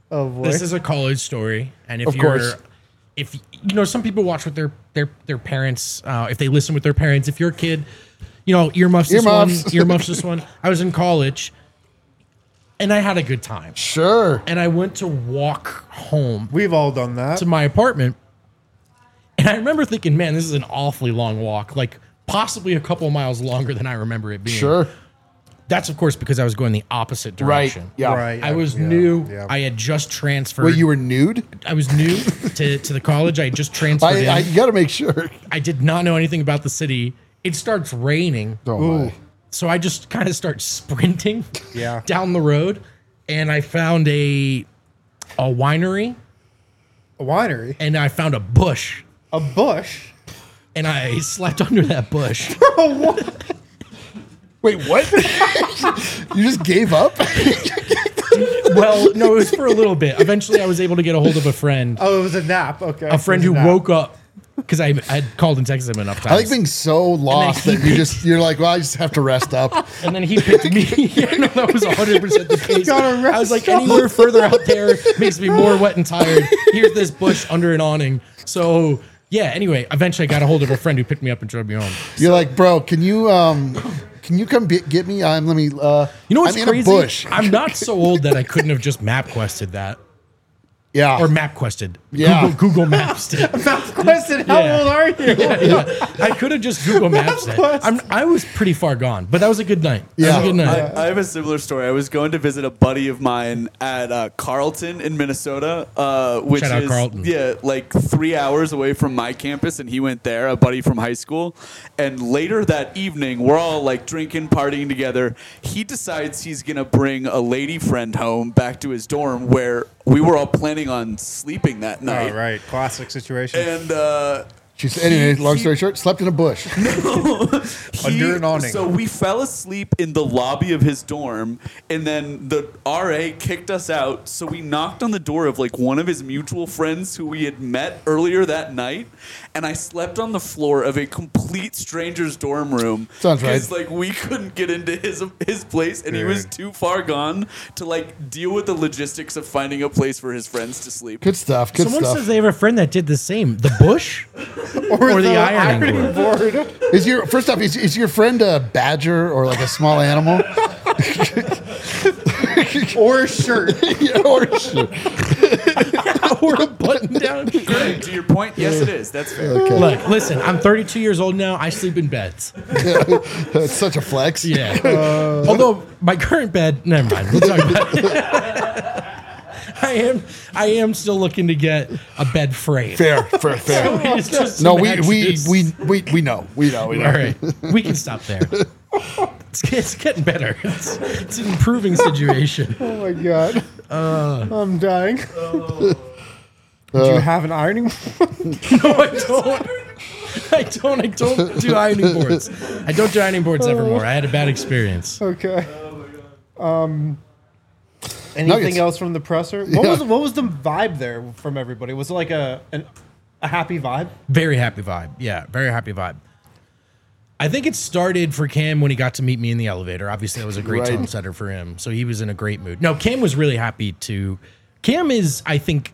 Oh boy. This is a college story, and if Of you're, course. if you know, some people watch with their their their parents. Uh, if they listen with their parents, if you're a kid, you know, earmuffs this Earmuffs. one, earmuffs this one. I was in college, and I had a good time, Sure. and I went to walk home We've all done that. to my apartment, and I remember thinking, man, this is an awfully long walk, like possibly a couple miles longer than I remember it being. Sure. That's of course because I was going the opposite Right. direction. Yeah. Right. I was yeah, new. yeah. I had just transferred. Wait, you were nude? I was new to, to the college. I had just transferred I, in. I I, you got to make sure. did not know anything about the city. It starts raining. Oh my. So I just kind of start sprinting Yeah. down the road. And I found a a winery A winery. and I found a bush. A bush. And I slept under that bush. Wait, what? You just gave up? Well, no, it was for a little bit. Eventually I was able to get a hold of a friend. Oh, it was a nap. Okay. A friend It who was a nap. woke up because I had called and texted him enough times. I like being so lost he that you just you're like, well, I just have to rest up. And then he picked me. Yeah, no, that was one hundred percent the case. gotta I was like, rest anywhere further out there makes me more wet and tired. Here's this bush under an awning. So, yeah, anyway, eventually I got a hold of a friend who picked me up and drove me home. You're like, bro, can you um, can you come be- get me? I'm let me. Uh, You know what's I'm crazy? in a bush. I'm not so old that I couldn't have just map quested that. Yeah. Or map quested. Yeah. Google, Google Maps it. Question, how Yeah. old are you? Yeah, yeah. I could have just Google Maps it. I'm, I was pretty far gone, but that was a good night. That Yeah. was a good night. I, I have a similar story. I was going to visit a buddy of mine at uh, Carleton in Minnesota, uh, which Shout out is Carleton. yeah, like three hours away from my campus, and he went there, a buddy from high school. And later that evening, we're all like drinking, partying together. He decides he's gonna bring a lady friend home back to his dorm, where we were all planning on sleeping that night. Oh, right. Classic situation. And uh, She's anyway. he- Long he- story short, slept in a bush. Under an awning. So we fell asleep in the lobby of his dorm, and then the R A kicked us out. So we knocked on the door of like one of his mutual friends who we had met earlier that night, and I slept on the floor of a complete stranger's dorm room. Sounds right. Because like we couldn't get into his his place, and he was Dude. too far gone to like deal with the logistics of finding a place for his friends to sleep. Good stuff. Good Someone stuff. says they have a friend that did the same. The bush? or the ironing board. board. Is your first off? Is, is your friend a badger or like a small animal? Or a shirt. Yeah, or shit. or a button down shirt. To your point, yes, it is. That's fair. Okay. Look, listen, I'm thirty-two years old now. I sleep in beds. It's such a flex. Yeah. Although my current bed, never mind. We'll talk about it. I am I am still looking to get a bed frame. Fair, fair, fair. It's just No, to we match we, this. we we we know. We know. We know. All right, we can stop there. It's, it's getting better. It's, it's an improving situation. Oh my god. I'm dying. Do you have an ironing board? No, I don't. I don't. I don't do ironing boards. I don't do ironing boards evermore. I had a bad experience. Okay. Um. Anything Nuggets. else from the presser? What Yeah. was what was the vibe there from everybody? Was it like a an, a happy vibe? Very happy vibe. Yeah, very happy vibe. I think it started for Cam when he got to meet me in the elevator. Obviously, that was a great Right. tone setter for him. So he was in a great mood. No, Cam was really happy to. Cam is, I think,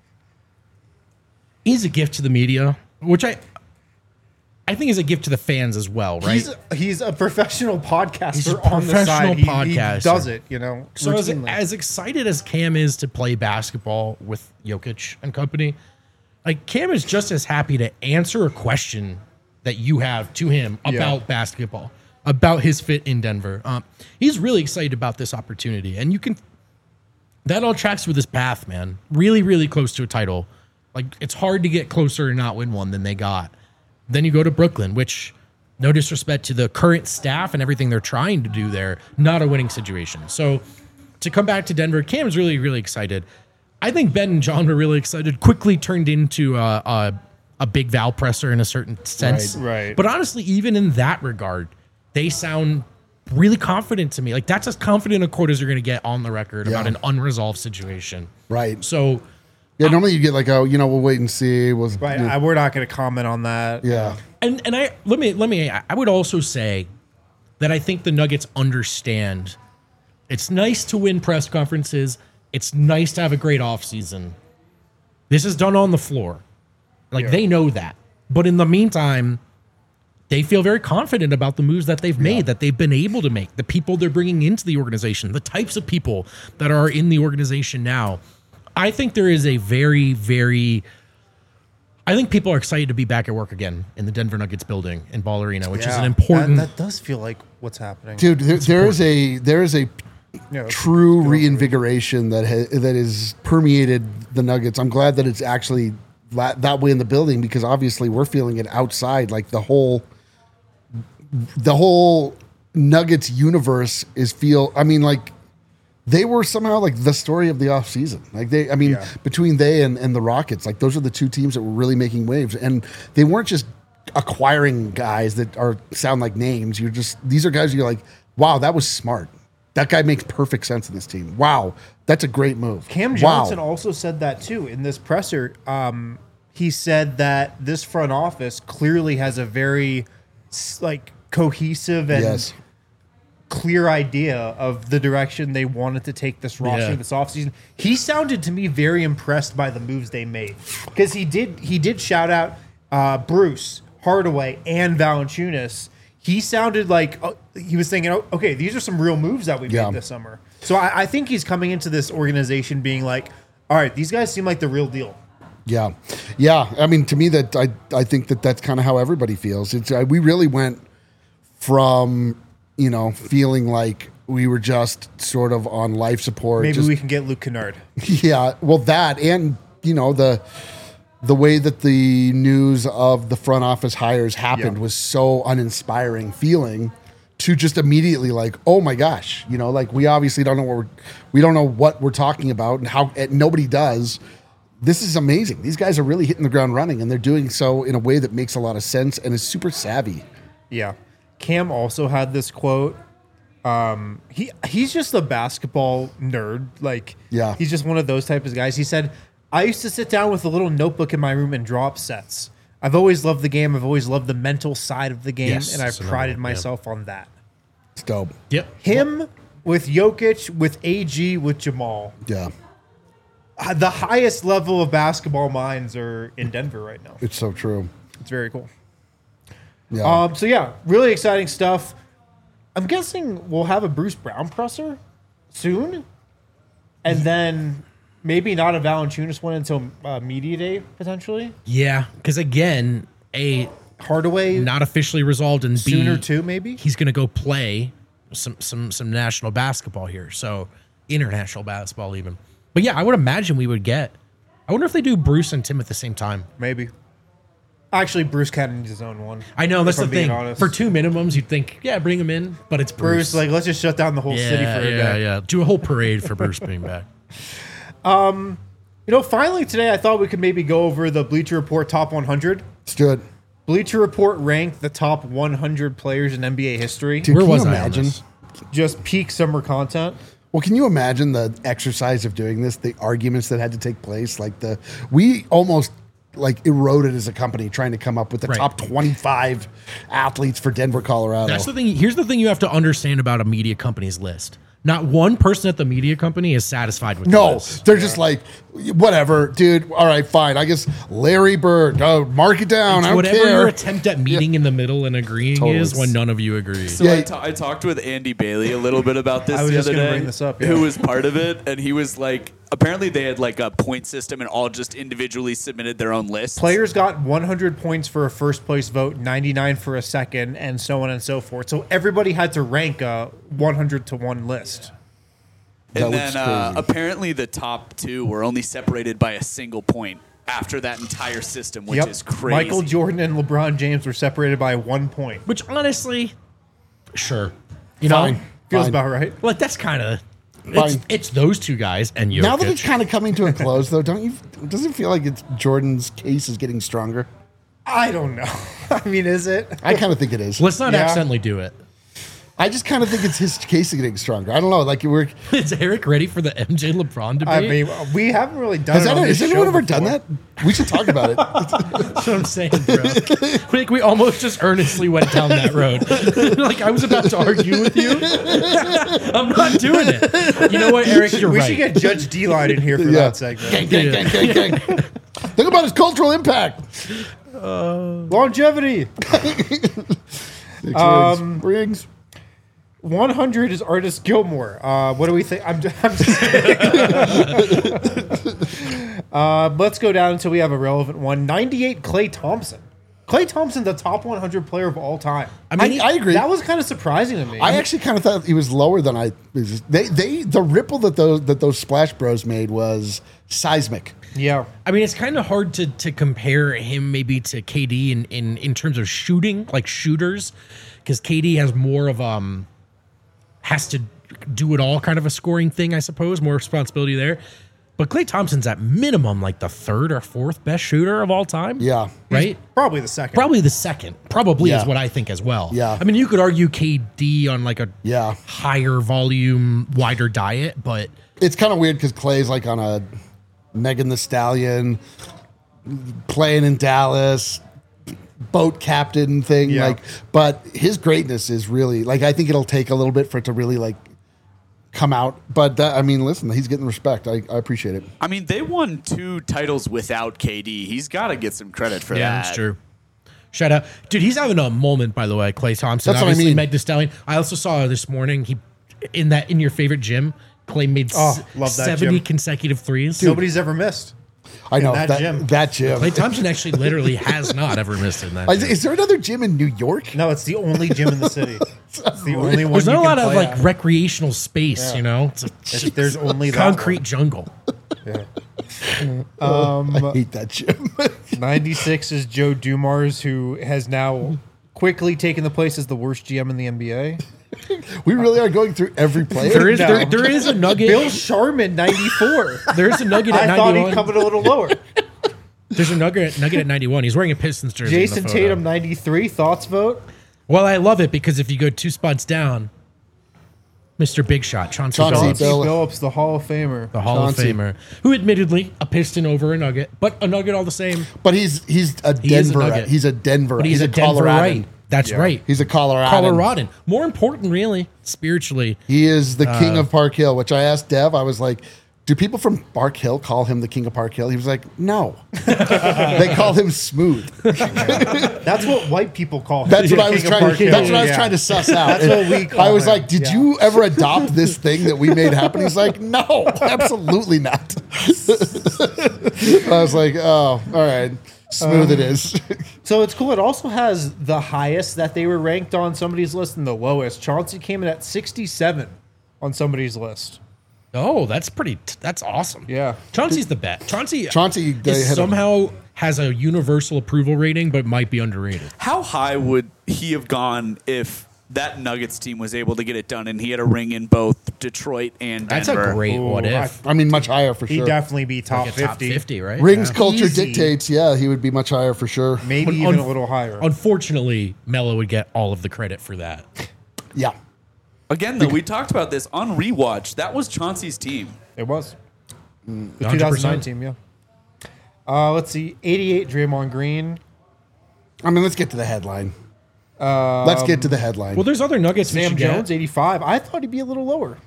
he's a gift to the media, which I, I think is a gift to the fans as well, right? He's he's a professional podcaster He's a on the professional side. He- He, podcaster. does it, you know. So as, routinely. as excited as Cam is to play basketball with Jokic and company, like Cam is just as happy to answer a question that you have to him Yeah. about basketball, about his fit in Denver. Um, he's really excited about this opportunity, and you can that all tracks with his path, man. Really, really close to a title. Like it's hard to get closer and not win one than they got. Then you go to Brooklyn, which, no disrespect to the current staff and everything they're trying to do there, not a winning situation. So to come back to Denver, Cam's really, really excited. I think Ben and John were really excited. Quickly turned into a, a, a big Val presser in a certain sense. Right, right. But honestly, even in that regard, they sound really confident to me. Like that's as confident a quote as you're going to get on the record about Yeah. an unresolved situation. Right. So Yeah. Normally you get like, oh, you know, we'll wait and see. We'll, right, yeah. I, we're not going to comment on that. yeah. And and I let me let me I would also say that I think the Nuggets understand it's nice to win press conferences. It's nice to have a great offseason. This is done on the floor. Like, Yeah. they know that. But in the meantime, they feel very confident about the moves that they've made, that they've been able to make, the people they're bringing into the organization, the types of people that are in the organization now. I think there is a very, very... I think people are excited to be back at work again in the Denver Nuggets building in Ball Arena, which is Yeah, an important... That, that does feel like what's happening, Dude, there, there is a there is a Yeah, let's true go for it. reinvigoration that ha- that has permeated the Nuggets. I'm glad that it's actually that, that way in the building, because obviously we're feeling it outside. Like the whole the whole Nuggets universe is feel. I mean, like they were somehow like the story of the offseason. Like they, I mean, Yeah. between they and, and the Rockets, like those are the two teams that were really making waves, and they weren't just acquiring guys that are sound like names. You're just these are guys you're like, wow, that was smart. That guy makes perfect sense in this team. Wow, that's a great move. Cam Wow. Johnson also said that too in this presser. Um, he said that this front office clearly has a very s- like cohesive and Yes. clear idea of the direction they wanted to take this roster Yeah. this offseason. He sounded to me very impressed by the moves they made, because he did he did shout out uh, Bruce Hardaway and Valanciunas. He sounded like uh, he was thinking, oh, okay, these are some real moves that we Yeah. made this summer. So I, I think he's coming into this organization being like, all right, these guys seem like the real deal. Yeah, yeah. I mean, to me, that I I think that that's kind of how everybody feels. It's uh, we really went from you know feeling like we were just sort of on life support. Maybe just- we can get Luke Kennard. Yeah, well, that and you know the the way that the news of the front office hires happened Yeah. was so uninspiring feeling to just immediately like, oh my gosh, you know, like we obviously don't know what we're we don't know what we're talking about and how and nobody does. This is amazing. These guys are really hitting the ground running, and they're doing so in a way that makes a lot of sense and is super savvy. Yeah. Cam also had this quote. Um, he he's just a basketball nerd. Like, Yeah. he's just one of those type of guys. He said, I used to sit down with a little notebook in my room and draw up sets. I've always loved the game. I've always loved the mental side of the game, Yes, and I've that's another prided one, yeah. myself on that. It's dope. Yep. Him with Jokic, with A G, with Jamal. Yeah, Uh, The highest level of basketball minds are in Denver right now. it's so true. It's very cool. Yeah. Um, so yeah, really exciting stuff. I'm guessing we'll have a Bruce Brown presser soon, and then maybe not a Valanciunas one until uh, media day potentially. Yeah, because again, A, Hardaway not officially resolved, and B, sooner too, maybe. he's going to go play some some some national basketball here, so international basketball even. But yeah, I would imagine we would get. I wonder if they do Bruce and Tim at the same time. Maybe. Actually, Bruce kind of needs his own one. I know that's if the I'm being thing. honest. For two minimums, you'd think, yeah, bring him in, but it's Bruce. Bruce, like, let's just shut down the whole yeah, city for a yeah, day. yeah. Do a whole parade for Bruce being back. You know, finally today, I thought we could maybe go over the Bleacher Report top one hundred. Let's do it. Bleacher Report ranked the top one hundred players in N B A history. Dude, Where can was you I on imagine? this? Just peak summer content. Well, can you imagine the exercise of doing this, the arguments that had to take place? Like the we almost like eroded as a company trying to come up with the Right. top twenty-five athletes for Denver, Colorado. That's the thing. Here's the thing you have to understand about a media company's list. Not one person at the media company is satisfied with the No, list. they're just like, whatever, dude. All right, fine. I guess Larry Bird. Oh, mark it down. I don't Whatever care. your attempt at meeting in the middle and agreeing Totally. is when none of you agree. So Yeah. I, ta- I talked with Andy Bailey a little bit about this I was the just other gonna day, bring this up, yeah. who was part of it, and he was like, apparently they had like a point system and all just individually submitted their own lists. Players got one hundred points for a first place vote, ninety-nine for a second, and so on and so forth. So everybody had to rank a one hundred to one list. That and looks then uh, crazy. apparently the top two were only separated by a single point after that entire system, which Yep. is crazy. Michael Jordan and LeBron James were separated by one point. Which honestly, sure. You Fine. know, Feels Fine. about right. like that's kind of it's, Fine. it's those two guys and Jokic. Now that it's kind of coming to a close, though, don't you? Does it feel like it's Jordan's case is getting stronger? I don't know. I mean, is it? I kind of think it is. Let's not Yeah. accidentally do it. I just kind of think it's his case getting stronger. I don't know. Like we're Is Eric ready for the M J LeBron debate? I mean, we haven't really done has, it. that, on has this anyone show ever done before. that? We should talk about it. That's what I'm saying, bro. Like we almost just earnestly went down that road. Like I was about to argue with you. I'm not doing it. You know what, Eric? You're We right. should get Judge D-Line in here for Yeah. that segment. gang, gang, gang, gang, gang. Think about his cultural impact. Longevity. Um, rings. one hundred is Artist Gilmore. Uh, what do we think? I'm, I'm just uh, let's go down until we have a relevant one. ninety-eight, Klay Thompson. Klay Thompson, the top one hundred player of all time. I mean, I, I agree. That was kind of surprising to me. I actually kind of thought he was lower than I. They, they, the ripple that those that those Splash Bros made was seismic. yeah. I mean, it's kind of hard to to compare him maybe to K D in in, in terms of shooting, like shooters, because K D has more of um has to do it all kind of a scoring thing, I suppose, more responsibility there. But Klay Thompson's at minimum like the third or fourth best shooter of all time. Yeah. Right? Probably the second. Probably the second. Probably Yeah. is what I think as well. Yeah. I mean, you could argue K D on like a Yeah. higher volume, wider diet, but It's kind of weird because Clay's like on a Megan the Stallion, playing in Dallas, boat captain thing. Yeah. Like, but his greatness is really like I think it'll take a little bit for it to really like come out. But that, I mean, listen, he's getting respect. I, I appreciate it. I mean, they won two titles without K D. He's got to get some credit for yeah, that. that's true. Shout out. Dude, he's having a moment, by the way, Klay Thompson. That's what I Obviously, mean. Meg Thee Stallion. I also saw this morning, he in that in your favorite gym, Klay made Oh, s- love that seventy gym. consecutive threes. Nobody's ever missed. I know that that gym. that gym. Klay Thompson actually literally has not ever missed in that Is, gym. is there another gym in New York? No, it's the only gym in the city. It's the only one. There's not you a can lot of play like at. recreational space, you know? It's a It's- There's only that concrete jungle. I hate that gym. ninety-six is Joe Dumars, who has now quickly taken the place as the worst G M in the N B A. we really are going through every player. There is No. there, there is a nugget. Bill Sharman, ninety-four. There is a nugget at I thought he'd ninety-one. come in a little lower. There's a nugget nugget at ninety-one. He's wearing a Pistons jersey. in the Jason photo. Tatum, ninety-three. Thoughts vote? Well, I love it because if you go two spots down, Mister Big Shot, Chauncey, Chauncey Billups, Chauncey Bill- Billups, the Hall of Famer. the Hall Chauncey. of Famer, who admittedly a Piston over a Nugget, but a Nugget all the same. But he's he's a He is a Denver. Nugget. he's a Denver. But he's, a, Denver Coloradan. right. That's Yeah. right. He's a Colorado. Coloradan. More important, really, spiritually. He is the Uh, king of Park Hill, which I asked Dev. I was like, do people from Park Hill call him the king of Park Hill? He was like, no. They call him Smooth. That's what white people call him. That's what The I was King of trying. Park Hill. That's what I was Yeah. trying to suss out. That's what we call I was him. like, did Yeah. you ever adopt this thing that we made happen? He's like, no, absolutely not. I was like, oh, all right, Smooth it is. So it's cool. It also has the highest that they were ranked on somebody's list and the lowest. Chauncey came in at sixty-seven on somebody's list. Oh, that's pretty. That's awesome. Yeah. Chauncey's the bet. Chauncey. Chauncey, they is hit him. somehow has a universal approval rating, but might be underrated. How high would he have gone if that Nuggets team was able to get it done and he had a ring in both Detroit and That's Denver? a great Ooh, what I- if. I mean, much higher for He'd sure. definitely be top Like a top fifty. fifty, right? Rings Yeah. culture Easy. dictates, yeah, he would be much higher for sure. Maybe Un- even un- a little higher. Unfortunately, Melo would get all of the credit for that. Yeah. Again, though, we talked about this on rewatch. That was Chauncey's team. It was. The one hundred two thousand nine percent. team, yeah. Uh, let's see. eighty-eight, Draymond Green. I mean, let's get to the headline. let's get to the headline. Well, there's other Nuggets. we Sam should get. Jones, eighty-five. I thought he'd be a little lower.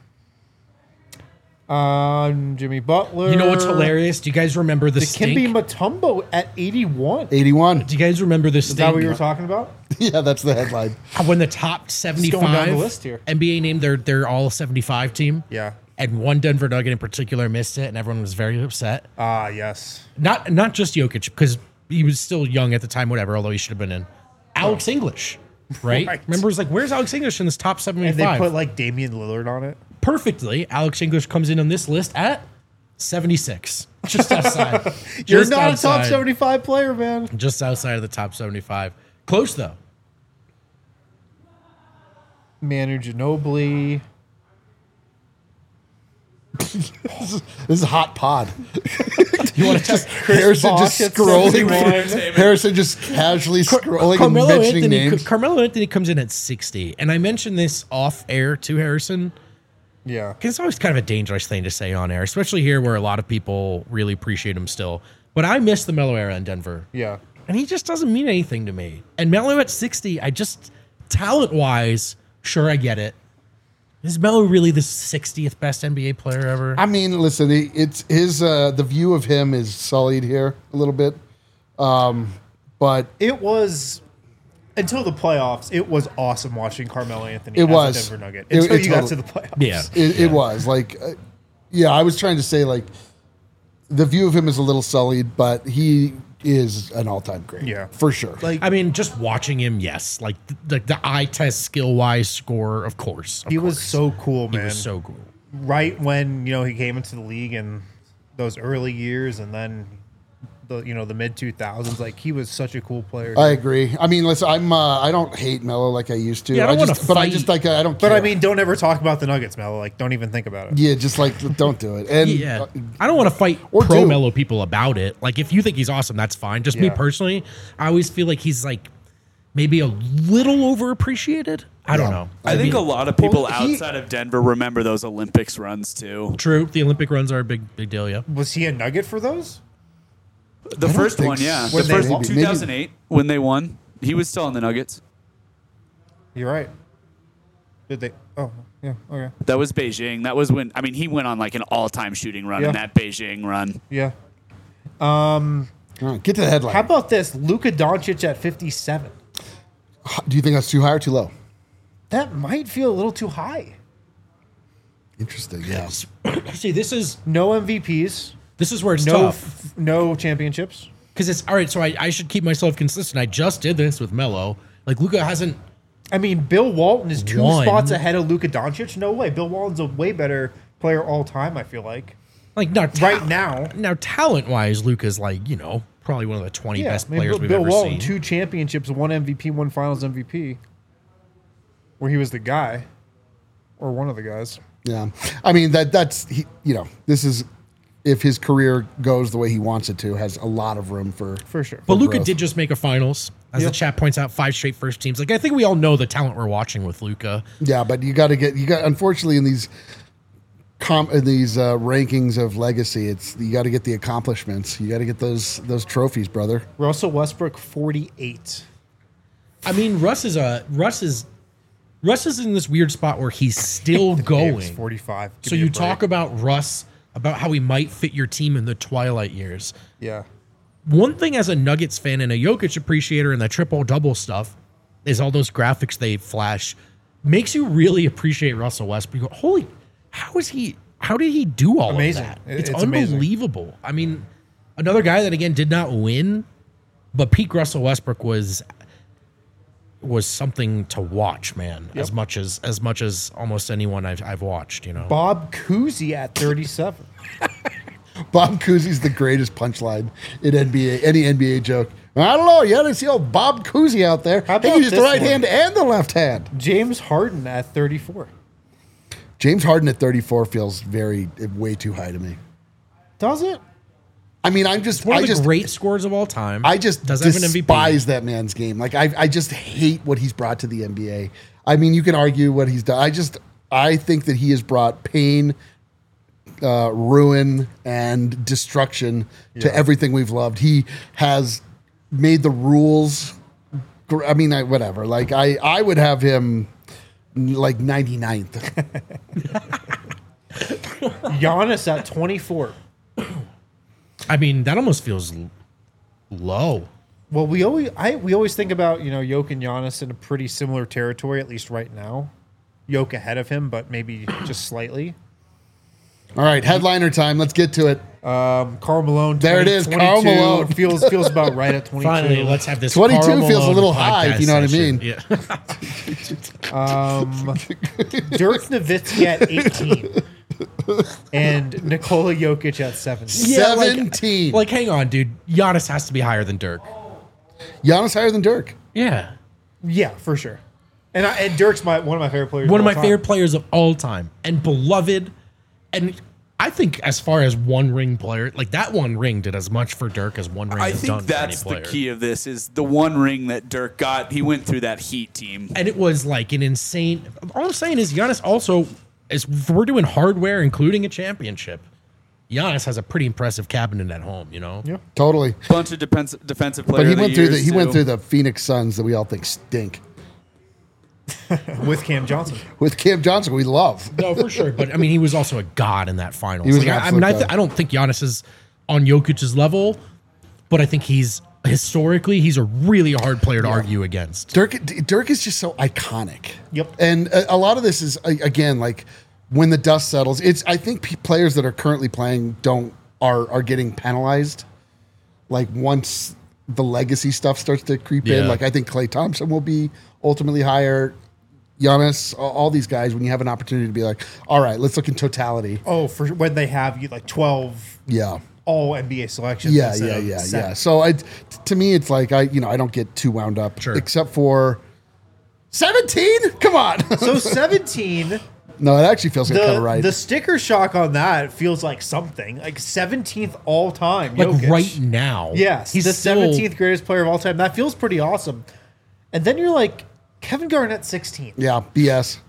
Um, Jimmy Butler. You know what's hilarious? Do you guys remember the Dikembe stink? Mutombo at eighty-one. eighty-one. Do you guys remember the Is that what you stink were talking about? Yeah, that's the headline. when the top going down seventy-five the list here. N B A named their their all seventy-five team? Yeah. And one Denver Nugget in particular missed it, and everyone was very upset. Ah, yes. Not not just Jokic, because he was still young at the time, whatever, although he should have been in. Alex English, right? Right. Remember, it was like, where's Alex English in this top And seventy-five? they put like Damian Lillard on it. Perfectly, Alex English comes in on this list at seventy-six. Just outside. You're Just not a outside. top seventy-five player, man. Just outside of the top seventy-five. Close, though. Manu Ginobili. This is a hot pod. You want to just Harrison just Bosh at scrolling. seventy-one. through- Harrison just casually scrolling Carmelo and mentioning Anthony, names. Carmelo Anthony comes in at sixty, and I mentioned this off air to Harrison Yeah. because it's always kind of a dangerous thing to say on air, especially here where a lot of people really appreciate him still. But I miss the Melo era in Denver, Yeah. and he just doesn't mean anything to me. And Melo at sixty, I just talent wise, sure I get it. Is Melo really the sixtieth best N B A player ever? I mean, listen, he- it's his uh, the view of him is sullied here a little bit, um, but It was until the playoffs. It was awesome watching Carmelo Anthony. It as was. a Denver Nugget It- until it you got totally- to the playoffs. yeah. it, it was like, uh, yeah, I was trying to say like the view of him is a little sullied, but he is an all time great, Yeah. for sure. Like I mean, just watching him, yes. Like the, the eye test skill wise score, of course. of he was course. so cool, He man. was so cool. Right when you know he came into the league in those early years, and then the you know the mid two thousands. Like he was such a cool player. I agree. I mean, listen, I'm uh, I don't hate Melo like I used to. Yeah, I don't wanna just, but I fight. just like I don't. but care. I mean, don't ever talk about the Nuggets, Melo. Like, don't even think about it. yeah, just like don't do it. And Yeah. uh, I don't want to fight Or pro do. Melo people about it. Like, if you think he's awesome, that's fine. Just me Yeah. personally, I always feel like he's like maybe a little overappreciated. I don't Yeah. know. I think mean, a lot of people Well, he- outside of Denver remember those Olympics runs too. True. The Olympic runs are a big, big deal. Yeah. Was he a Nugget for those? The don't first think one, yeah, so. the When first they- maybe- two thousand eight when they won, he was still on the Nuggets. You're right. Did they? Oh, yeah. Okay. That was Beijing. That was when I mean he went on like an all-time shooting run Yeah. in that Beijing run. Yeah. all right, get to the headline. How about this? Luka Doncic at fifty-seven. Do you think that's too high or too low? That might feel a little too high. Interesting. Yeah. See, this is No M V Ps. this is where it's No. tough F- no championships. because it's all right. So I, I should keep myself consistent. I just did this with Melo. Like Luca hasn't. I mean, Bill Walton is two One. spots ahead of Luka Doncic. No way. Bill Walton's a way better player all time. I feel like Like not ta- right now. Now, talent wise, Luca's like you know probably one of the twenty Yeah, best I mean, players Bill, we've Bill ever Walton, seen. two championships, one M V P, one Finals M V P, where he was the guy, or one of the guys. Yeah. I mean that that's he, you know this is if his career goes the way he wants it to, has a lot of room for For sure. But Luca growth. did just make a finals, as Yeah. the chat points out, five straight first teams. Like I think we all know the talent we're watching with Luca. Yeah, but you got to get you got. Unfortunately, in these com in these uh, rankings of legacy, it's you got to get the accomplishments. You got to get those those trophies, brother. Russell Westbrook, forty-eight. I mean, Russ is a Russ is Russ is in this weird spot where he's still Davis, going. forty-five. Give So me a you break. talk about Russ, about how he might fit your team in the twilight years. Yeah. One thing as a Nuggets fan and a Jokic appreciator and the triple double stuff is all those graphics they flash makes you really appreciate Russell Westbrook. You go, holy, how is he? How did he do all Amazing. of that? It- It's, it's amazing. unbelievable. I mean, another guy that again did not win, but peak Russell Westbrook was was something to watch, man. As much as as much as almost anyone I've I've watched, you know. Bob Cousy at thirty-seven. Bob Cousy's the greatest punchline in N B A. Any N B A joke. I don't know. You got to see old Bob Cousy out there. How He about can use the this right one? hand and the left hand. James Harden at thirty-four. James Harden at thirty-four feels very way too high to me. Does it? I mean, I'm just One I of the just great scores of all time. I just does have an M V P. despise that man's game. Like I, I just hate what he's brought to the N B A. I mean, you can argue what he's done. I just, I think that he has brought pain, uh, ruin, and destruction to Yeah. everything we've loved. He has made the rules. gr- I mean, I, whatever. Like I, I would have him like ninety-ninth. Giannis at twenty-four. I mean, that almost feels l- low. Well, we always I we always think about, you know, Jokic and Giannis in a pretty similar territory, at least right now. Jokic ahead of him, but maybe just slightly. All right, headliner time. Let's get to it. Um, Karl Malone. There it is, twenty, Karl twenty-two, Malone. feels feels about right at twenty-two. Finally, let's have this. twenty-two Karl feels a Malone little high, if you know what I podcast mean. session. Yeah. Um, Dirk Nowitzki at eighteen, and Nikola Jokic at seventeen. Yeah, like- Seventeen. Like, hang on, dude. Giannis has to be higher than Dirk. Giannis higher than Dirk. Yeah. Yeah, for sure. And I, and Dirk's my one of my favorite players. One of all my time. favorite players of all time and beloved. And I think as far as one ring player, like that one ring did as much for Dirk as one ring I has think done that's for any the player. key of this is the one ring that Dirk got. He went through that Heat team. And it was like an insane. All I'm saying is Giannis also, is if we're doing hardware, including a championship, Giannis has a pretty impressive cabinet at home, you know? Yeah. Totally. Bunch of defensive defensive But players. he went through the he went through the Phoenix Suns that we all think stink. With Cam Johnson. With Cam Johnson, we love. No, for sure. But I mean, he was also a god in that finals. He was Like, an I, I mean, absolute I, th- god. I don't think Giannis is on Jokic's level, but I think he's historically, he's a really hard player to argue against. Dirk Dirk is just so iconic. Yep. And a, a lot of this is a- again like when the dust settles. It's I think p- players that are currently playing don't are are getting penalized. Like once the legacy stuff starts to creep Yeah. in, like I think Klay Thompson will be ultimately higher. Giannis, all, all these guys, when you have an opportunity to be like, all right, let's look in totality. Oh, for when they have you like twelve Yeah. all N B A selections. Yeah, instead yeah, of yeah, seven. yeah. So I, t- to me, it's like I, you know, I don't get too wound up, Sure. except for seventeen. Come on. So seventeen, No, it actually feels like kind the of right. the sticker shock on that feels like something like seventeenth all time. Like Jokic. right now. Yes, He's the still- seventeenth greatest player of all time. That feels pretty awesome. And then you're like Kevin Garnett, sixteen. Yeah, B S.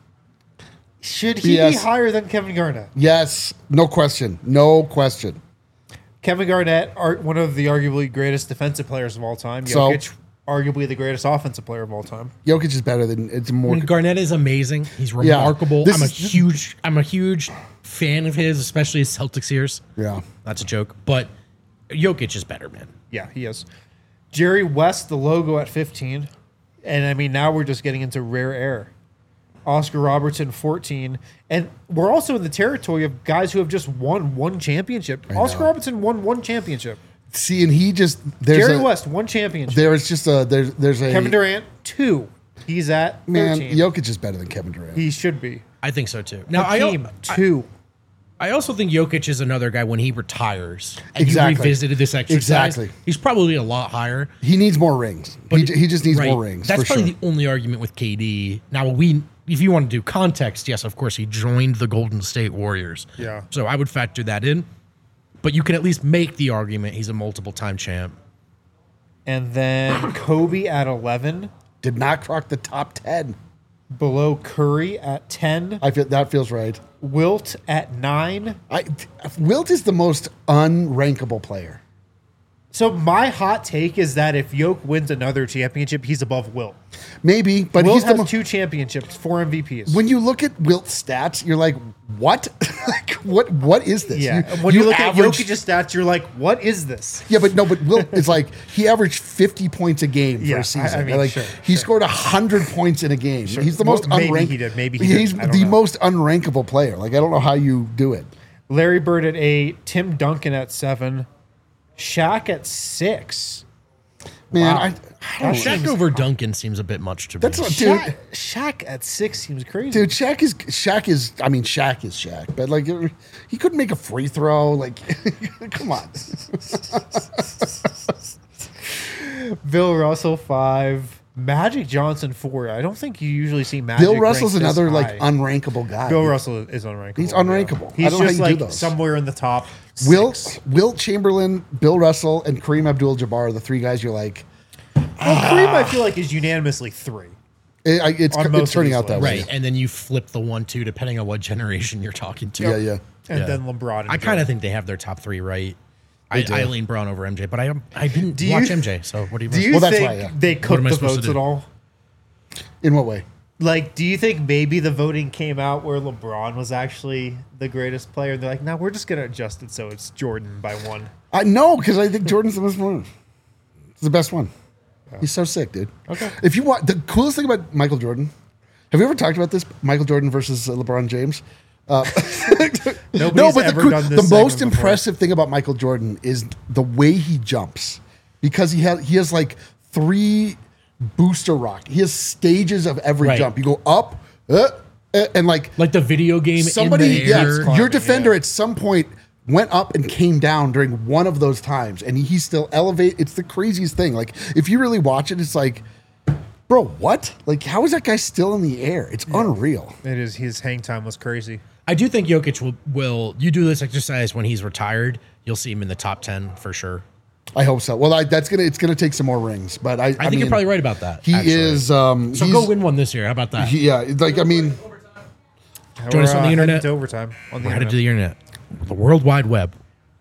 Should he be Yes. higher than Kevin Garnett? Yes, no question, no question. Kevin Garnett, are one of the arguably greatest defensive players of all time. So- Jokic, arguably the greatest offensive player of all time. Jokic is better than it's I more. mean, Garnett is amazing. He's Yeah. remarkable. This I'm a is- huge, I'm a huge fan of his, especially his Celtics years. Yeah, That's a joke, but Jokic is better, man. Yeah, he is. Jerry West, the logo at fifteen. And I mean, now we're just getting into rare air. Oscar Robertson, fourteen. And we're also in the territory of guys who have just won one championship. Oscar know. Robertson won one championship. see, and he just there's Jerry a, West, one championship. There's just a there's there's a Kevin Durant, two. He's at man. thirteen. Jokic is better than Kevin Durant. He should be. I think so too. Now, I, Hakeem, al- two. I also think Jokic is another guy when he retires and Exactly. he revisited this exercise. Exactly. He's probably a lot higher. he needs more rings. He, j- he just needs Right. more rings. That's for probably sure. the only argument with K D. Now, we, if you want to do context, yes, of course, he joined the Golden State Warriors. Yeah. So I would factor that in. But you can at least make the argument he's a multiple time champ. And then Kobe at eleven. Did not crock the top ten. Below Curry at ten. I feel that feels right. Wilt at nine. I Wilt is the most unrankable player. So my hot take is that if Yoke wins another championship, he's above Wilt. Maybe, but Wilt he's the has mo- two championships, four M V Ps. when you look at Wilt's stats, you're like, what? like, what? What is this? yeah, when you, look average- at Jokic's stats, you're like, what is this? Yeah, but no, but Wilt is like he averaged fifty points a game for Yeah, I- a season. I mean, like sure, he sure. scored hundred points in a game. He's the Well, most maybe unranked. he did, maybe he he's didn't. I don't the know. most unrankable player. Like I don't know how you do it. Larry Bird at eight, Tim Duncan at seven, Shaq at six. Man, Wow. I, I don't know. Shaq over Duncan seems a bit much to That's me. what- Dude. Shaq, Shaq at six seems crazy. Dude, Shaq is Shaq is. I mean, Shaq is Shaq, but like he couldn't make a free throw. Like, come on. Bill Russell five, Magic Johnson four. I don't think you usually see Magic. Bill Russell's ranked this another like high. unrankable guy. Bill Russell is unrankable. He's unrankable. I He's don't know just how you like do those. somewhere in the top. Wilt, six. Wilt Chamberlain, Bill Russell, and Kareem Abdul-Jabbar are the three guys you're like. Well, Kareem, I feel like is unanimously three. It, I, it's On most it's of turning these out that Right. way. And then you flip the one, two, depending on what generation you're talking to. Yeah, yeah. And Yeah. then LeBron. And I kind Jordan. of think they have their top three right. I, do. I lean Brown over M J, but I I didn't Do you- watch M J. So what do you? Do you Well, that's think why, yeah. they What cooked am I the supposed to votes do? at all? In what way? Like, do you think maybe the voting came out where LeBron was actually the greatest player? And they're like, no, we're just going to adjust it so it's Jordan by one. I no, because I think Jordan's the best one. He's the best one. He's so sick, dude. Okay. If you want the coolest thing about Michael Jordan, have you ever talked about this? Michael Jordan versus uh, LeBron James. Uh, Nobody's no, but ever the, done the this most segment before. impressive thing about Michael Jordan is the way he jumps, because he has he has like three booster rock. He has stages of every Right. jump. You go up, uh, uh, and like Like the video game. somebody, in the yeah, air. climbing, your defender yeah. at some point went up and came down during one of those times, and he still elevate. It's the craziest thing. Like if you really watch it, it's like, bro, what? Like how is that guy still in the air? It's unreal. It is. His hang time was crazy. I do think Jokic will, will, you do this exercise when he's retired, you'll see him in the top ten for sure. I hope so. Well, I, that's gonna it's gonna take some more rings, but I, I, I think mean, you're probably right about that. He actually. is. Um, So he's- go win one this year. How about that? he- yeah, like I mean, Join us We're, on the uh, internet. headed to overtime on the We're headed internet. to the internet. The World Wide Web.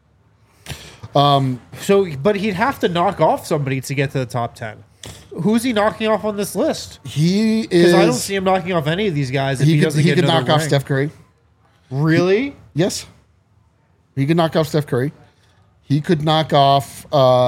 So, but he'd have to knock off somebody to get to the top ten. Who's he knocking off on this list? he Because is. I don't see him knocking off any of these guys if he, he could, doesn't he get could another knock off ring. Steph Curry. Really? Yes, he could knock off Steph Curry. He could knock off.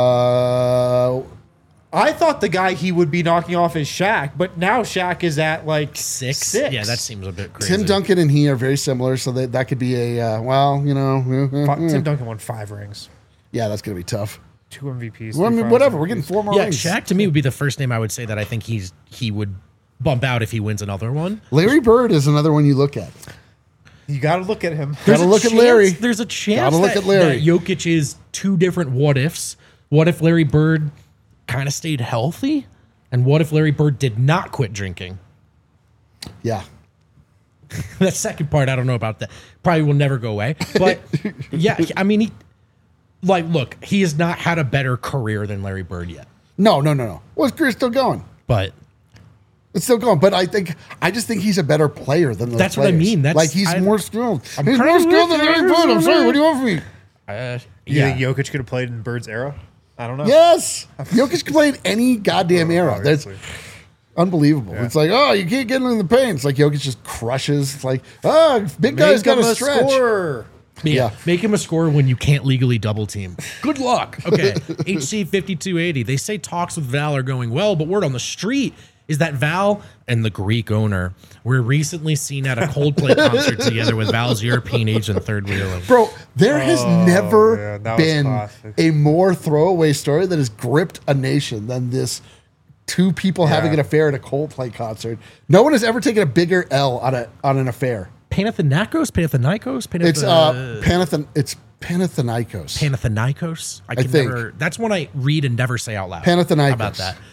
Uh, I thought the guy he would be knocking off is Shaq, but now Shaq is at like Six? Six. Yeah, that seems a bit crazy. Tim Duncan and he are very similar, so that that could be a uh, well, you know, Fi- Tim Duncan won five rings, yeah, that's gonna be tough. two M V Ps. Well, I three mean, finals whatever. We're M V Ps. getting four more Yeah, rings. Shaq to me would be the first name I would say that I think he's he would bump out if he wins another one. Larry Bird is another one you look at. You got to look at him. Gotta a look at chance- Larry. There's a chance Gotta look that, at Larry. that Jokic is two different what ifs. What if Larry Bird kind of stayed healthy? And what if Larry Bird did not quit drinking? Yeah, That second part, I don't know about that. Probably will never go away. But yeah, I mean, he, like, look, he has not had a better career than Larry Bird yet. no, no, no, no. Well, his career's still going. But It's still going, but I think I just think he's a better player than those That's what I players. mean. That's- like he's I- more skilled. I'm he's kinda more skilled than with Larry you. Bird. I'm sorry. What do you want from me? uh, You yeah, think Jokic could have played in Bird's era? I don't know. Yes, Jokic can play in any goddamn era. That's Obviously. unbelievable. It's like, oh, you can't get into the paint. It's like Jokic just crushes. It's like, oh, big guy's Make got him to a stretch. scorer. yeah, yeah. Make him a scorer when you can't legally double team. Good luck. Okay, H C fifty-two eighty. They say talks with Val are going well, but word on the street is that Val and the Greek owner were recently seen at a Coldplay concert together with Val's European agent third wheeler. Bro, there has Oh, never yeah, that was been classic. a more throwaway story that has gripped a nation than this two people having an affair at a Coldplay concert. No one has ever taken a bigger L on a on an affair. Panathinaikos, Panathinaikos, Panath- It's uh, Panathen. It's Panathinaikos. Panathinaikos. I I can think. never. That's one I read and never say out loud. Panathinaikos. How about that?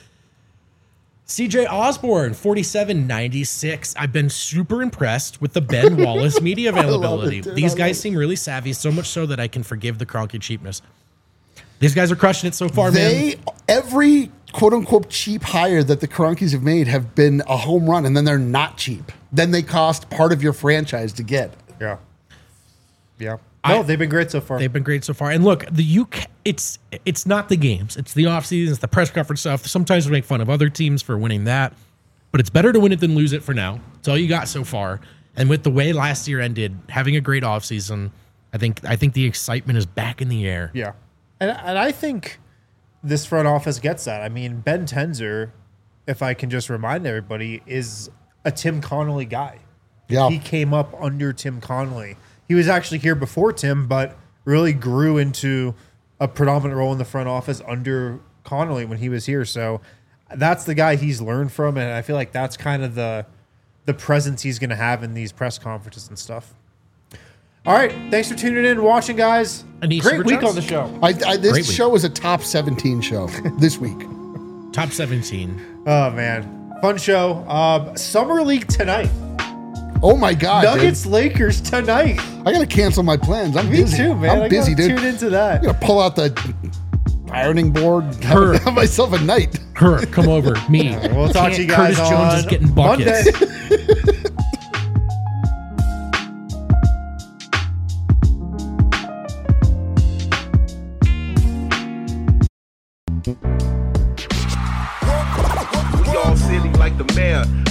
C J Osborne, forty-seven ninety-six. I've been super impressed with the Ben Wallace media love it, availability. dude. These I guys love seem really savvy, so much so that I can forgive the Kroenke cheapness. These guys are crushing it so far, man. They every quote unquote cheap hire that the Kroenkes have made have been a home run, and then they're not cheap. Then they cost part of your franchise to get. Yeah. Yeah. No, I- they've been great so far. They've been great so far. And look, the U K, it's it's not the games. It's the offseason, it's the press conference stuff. Sometimes we make fun of other teams for winning that. But it's better to win it than lose it for now. It's all you got so far. And with the way last year ended, having a great offseason, I think I think the excitement is back in the air. Yeah. And, and I think this front office gets that. I mean, Ben Tenzer, if I can just remind everybody, is a Tim Connolly guy. Yeah. He came up under Tim Connolly. He was actually here before Tim, but really grew into a predominant role in the front office under Connolly when he was here. So that's the guy he's learned from, and I feel like that's kind of the the presence he's going to have in these press conferences and stuff. All right, thanks for tuning in and watching, guys. Any Great super week chats? on the show. I, I, this Great week. show is a top seventeen show this week. Top seventeen. Oh man, fun show. Um, Summer League tonight. Oh my god, Nuggets Lakers tonight. dude. I gotta cancel my plans. I'm Me busy. too, man. I'm I busy, gotta dude. Tune into that. I'm gonna pull out the ironing board, Her. have, have myself a night. Her, come over. Me. We'll talk to you guys Curtis on Jones is getting buckets. We all silly like the mayor.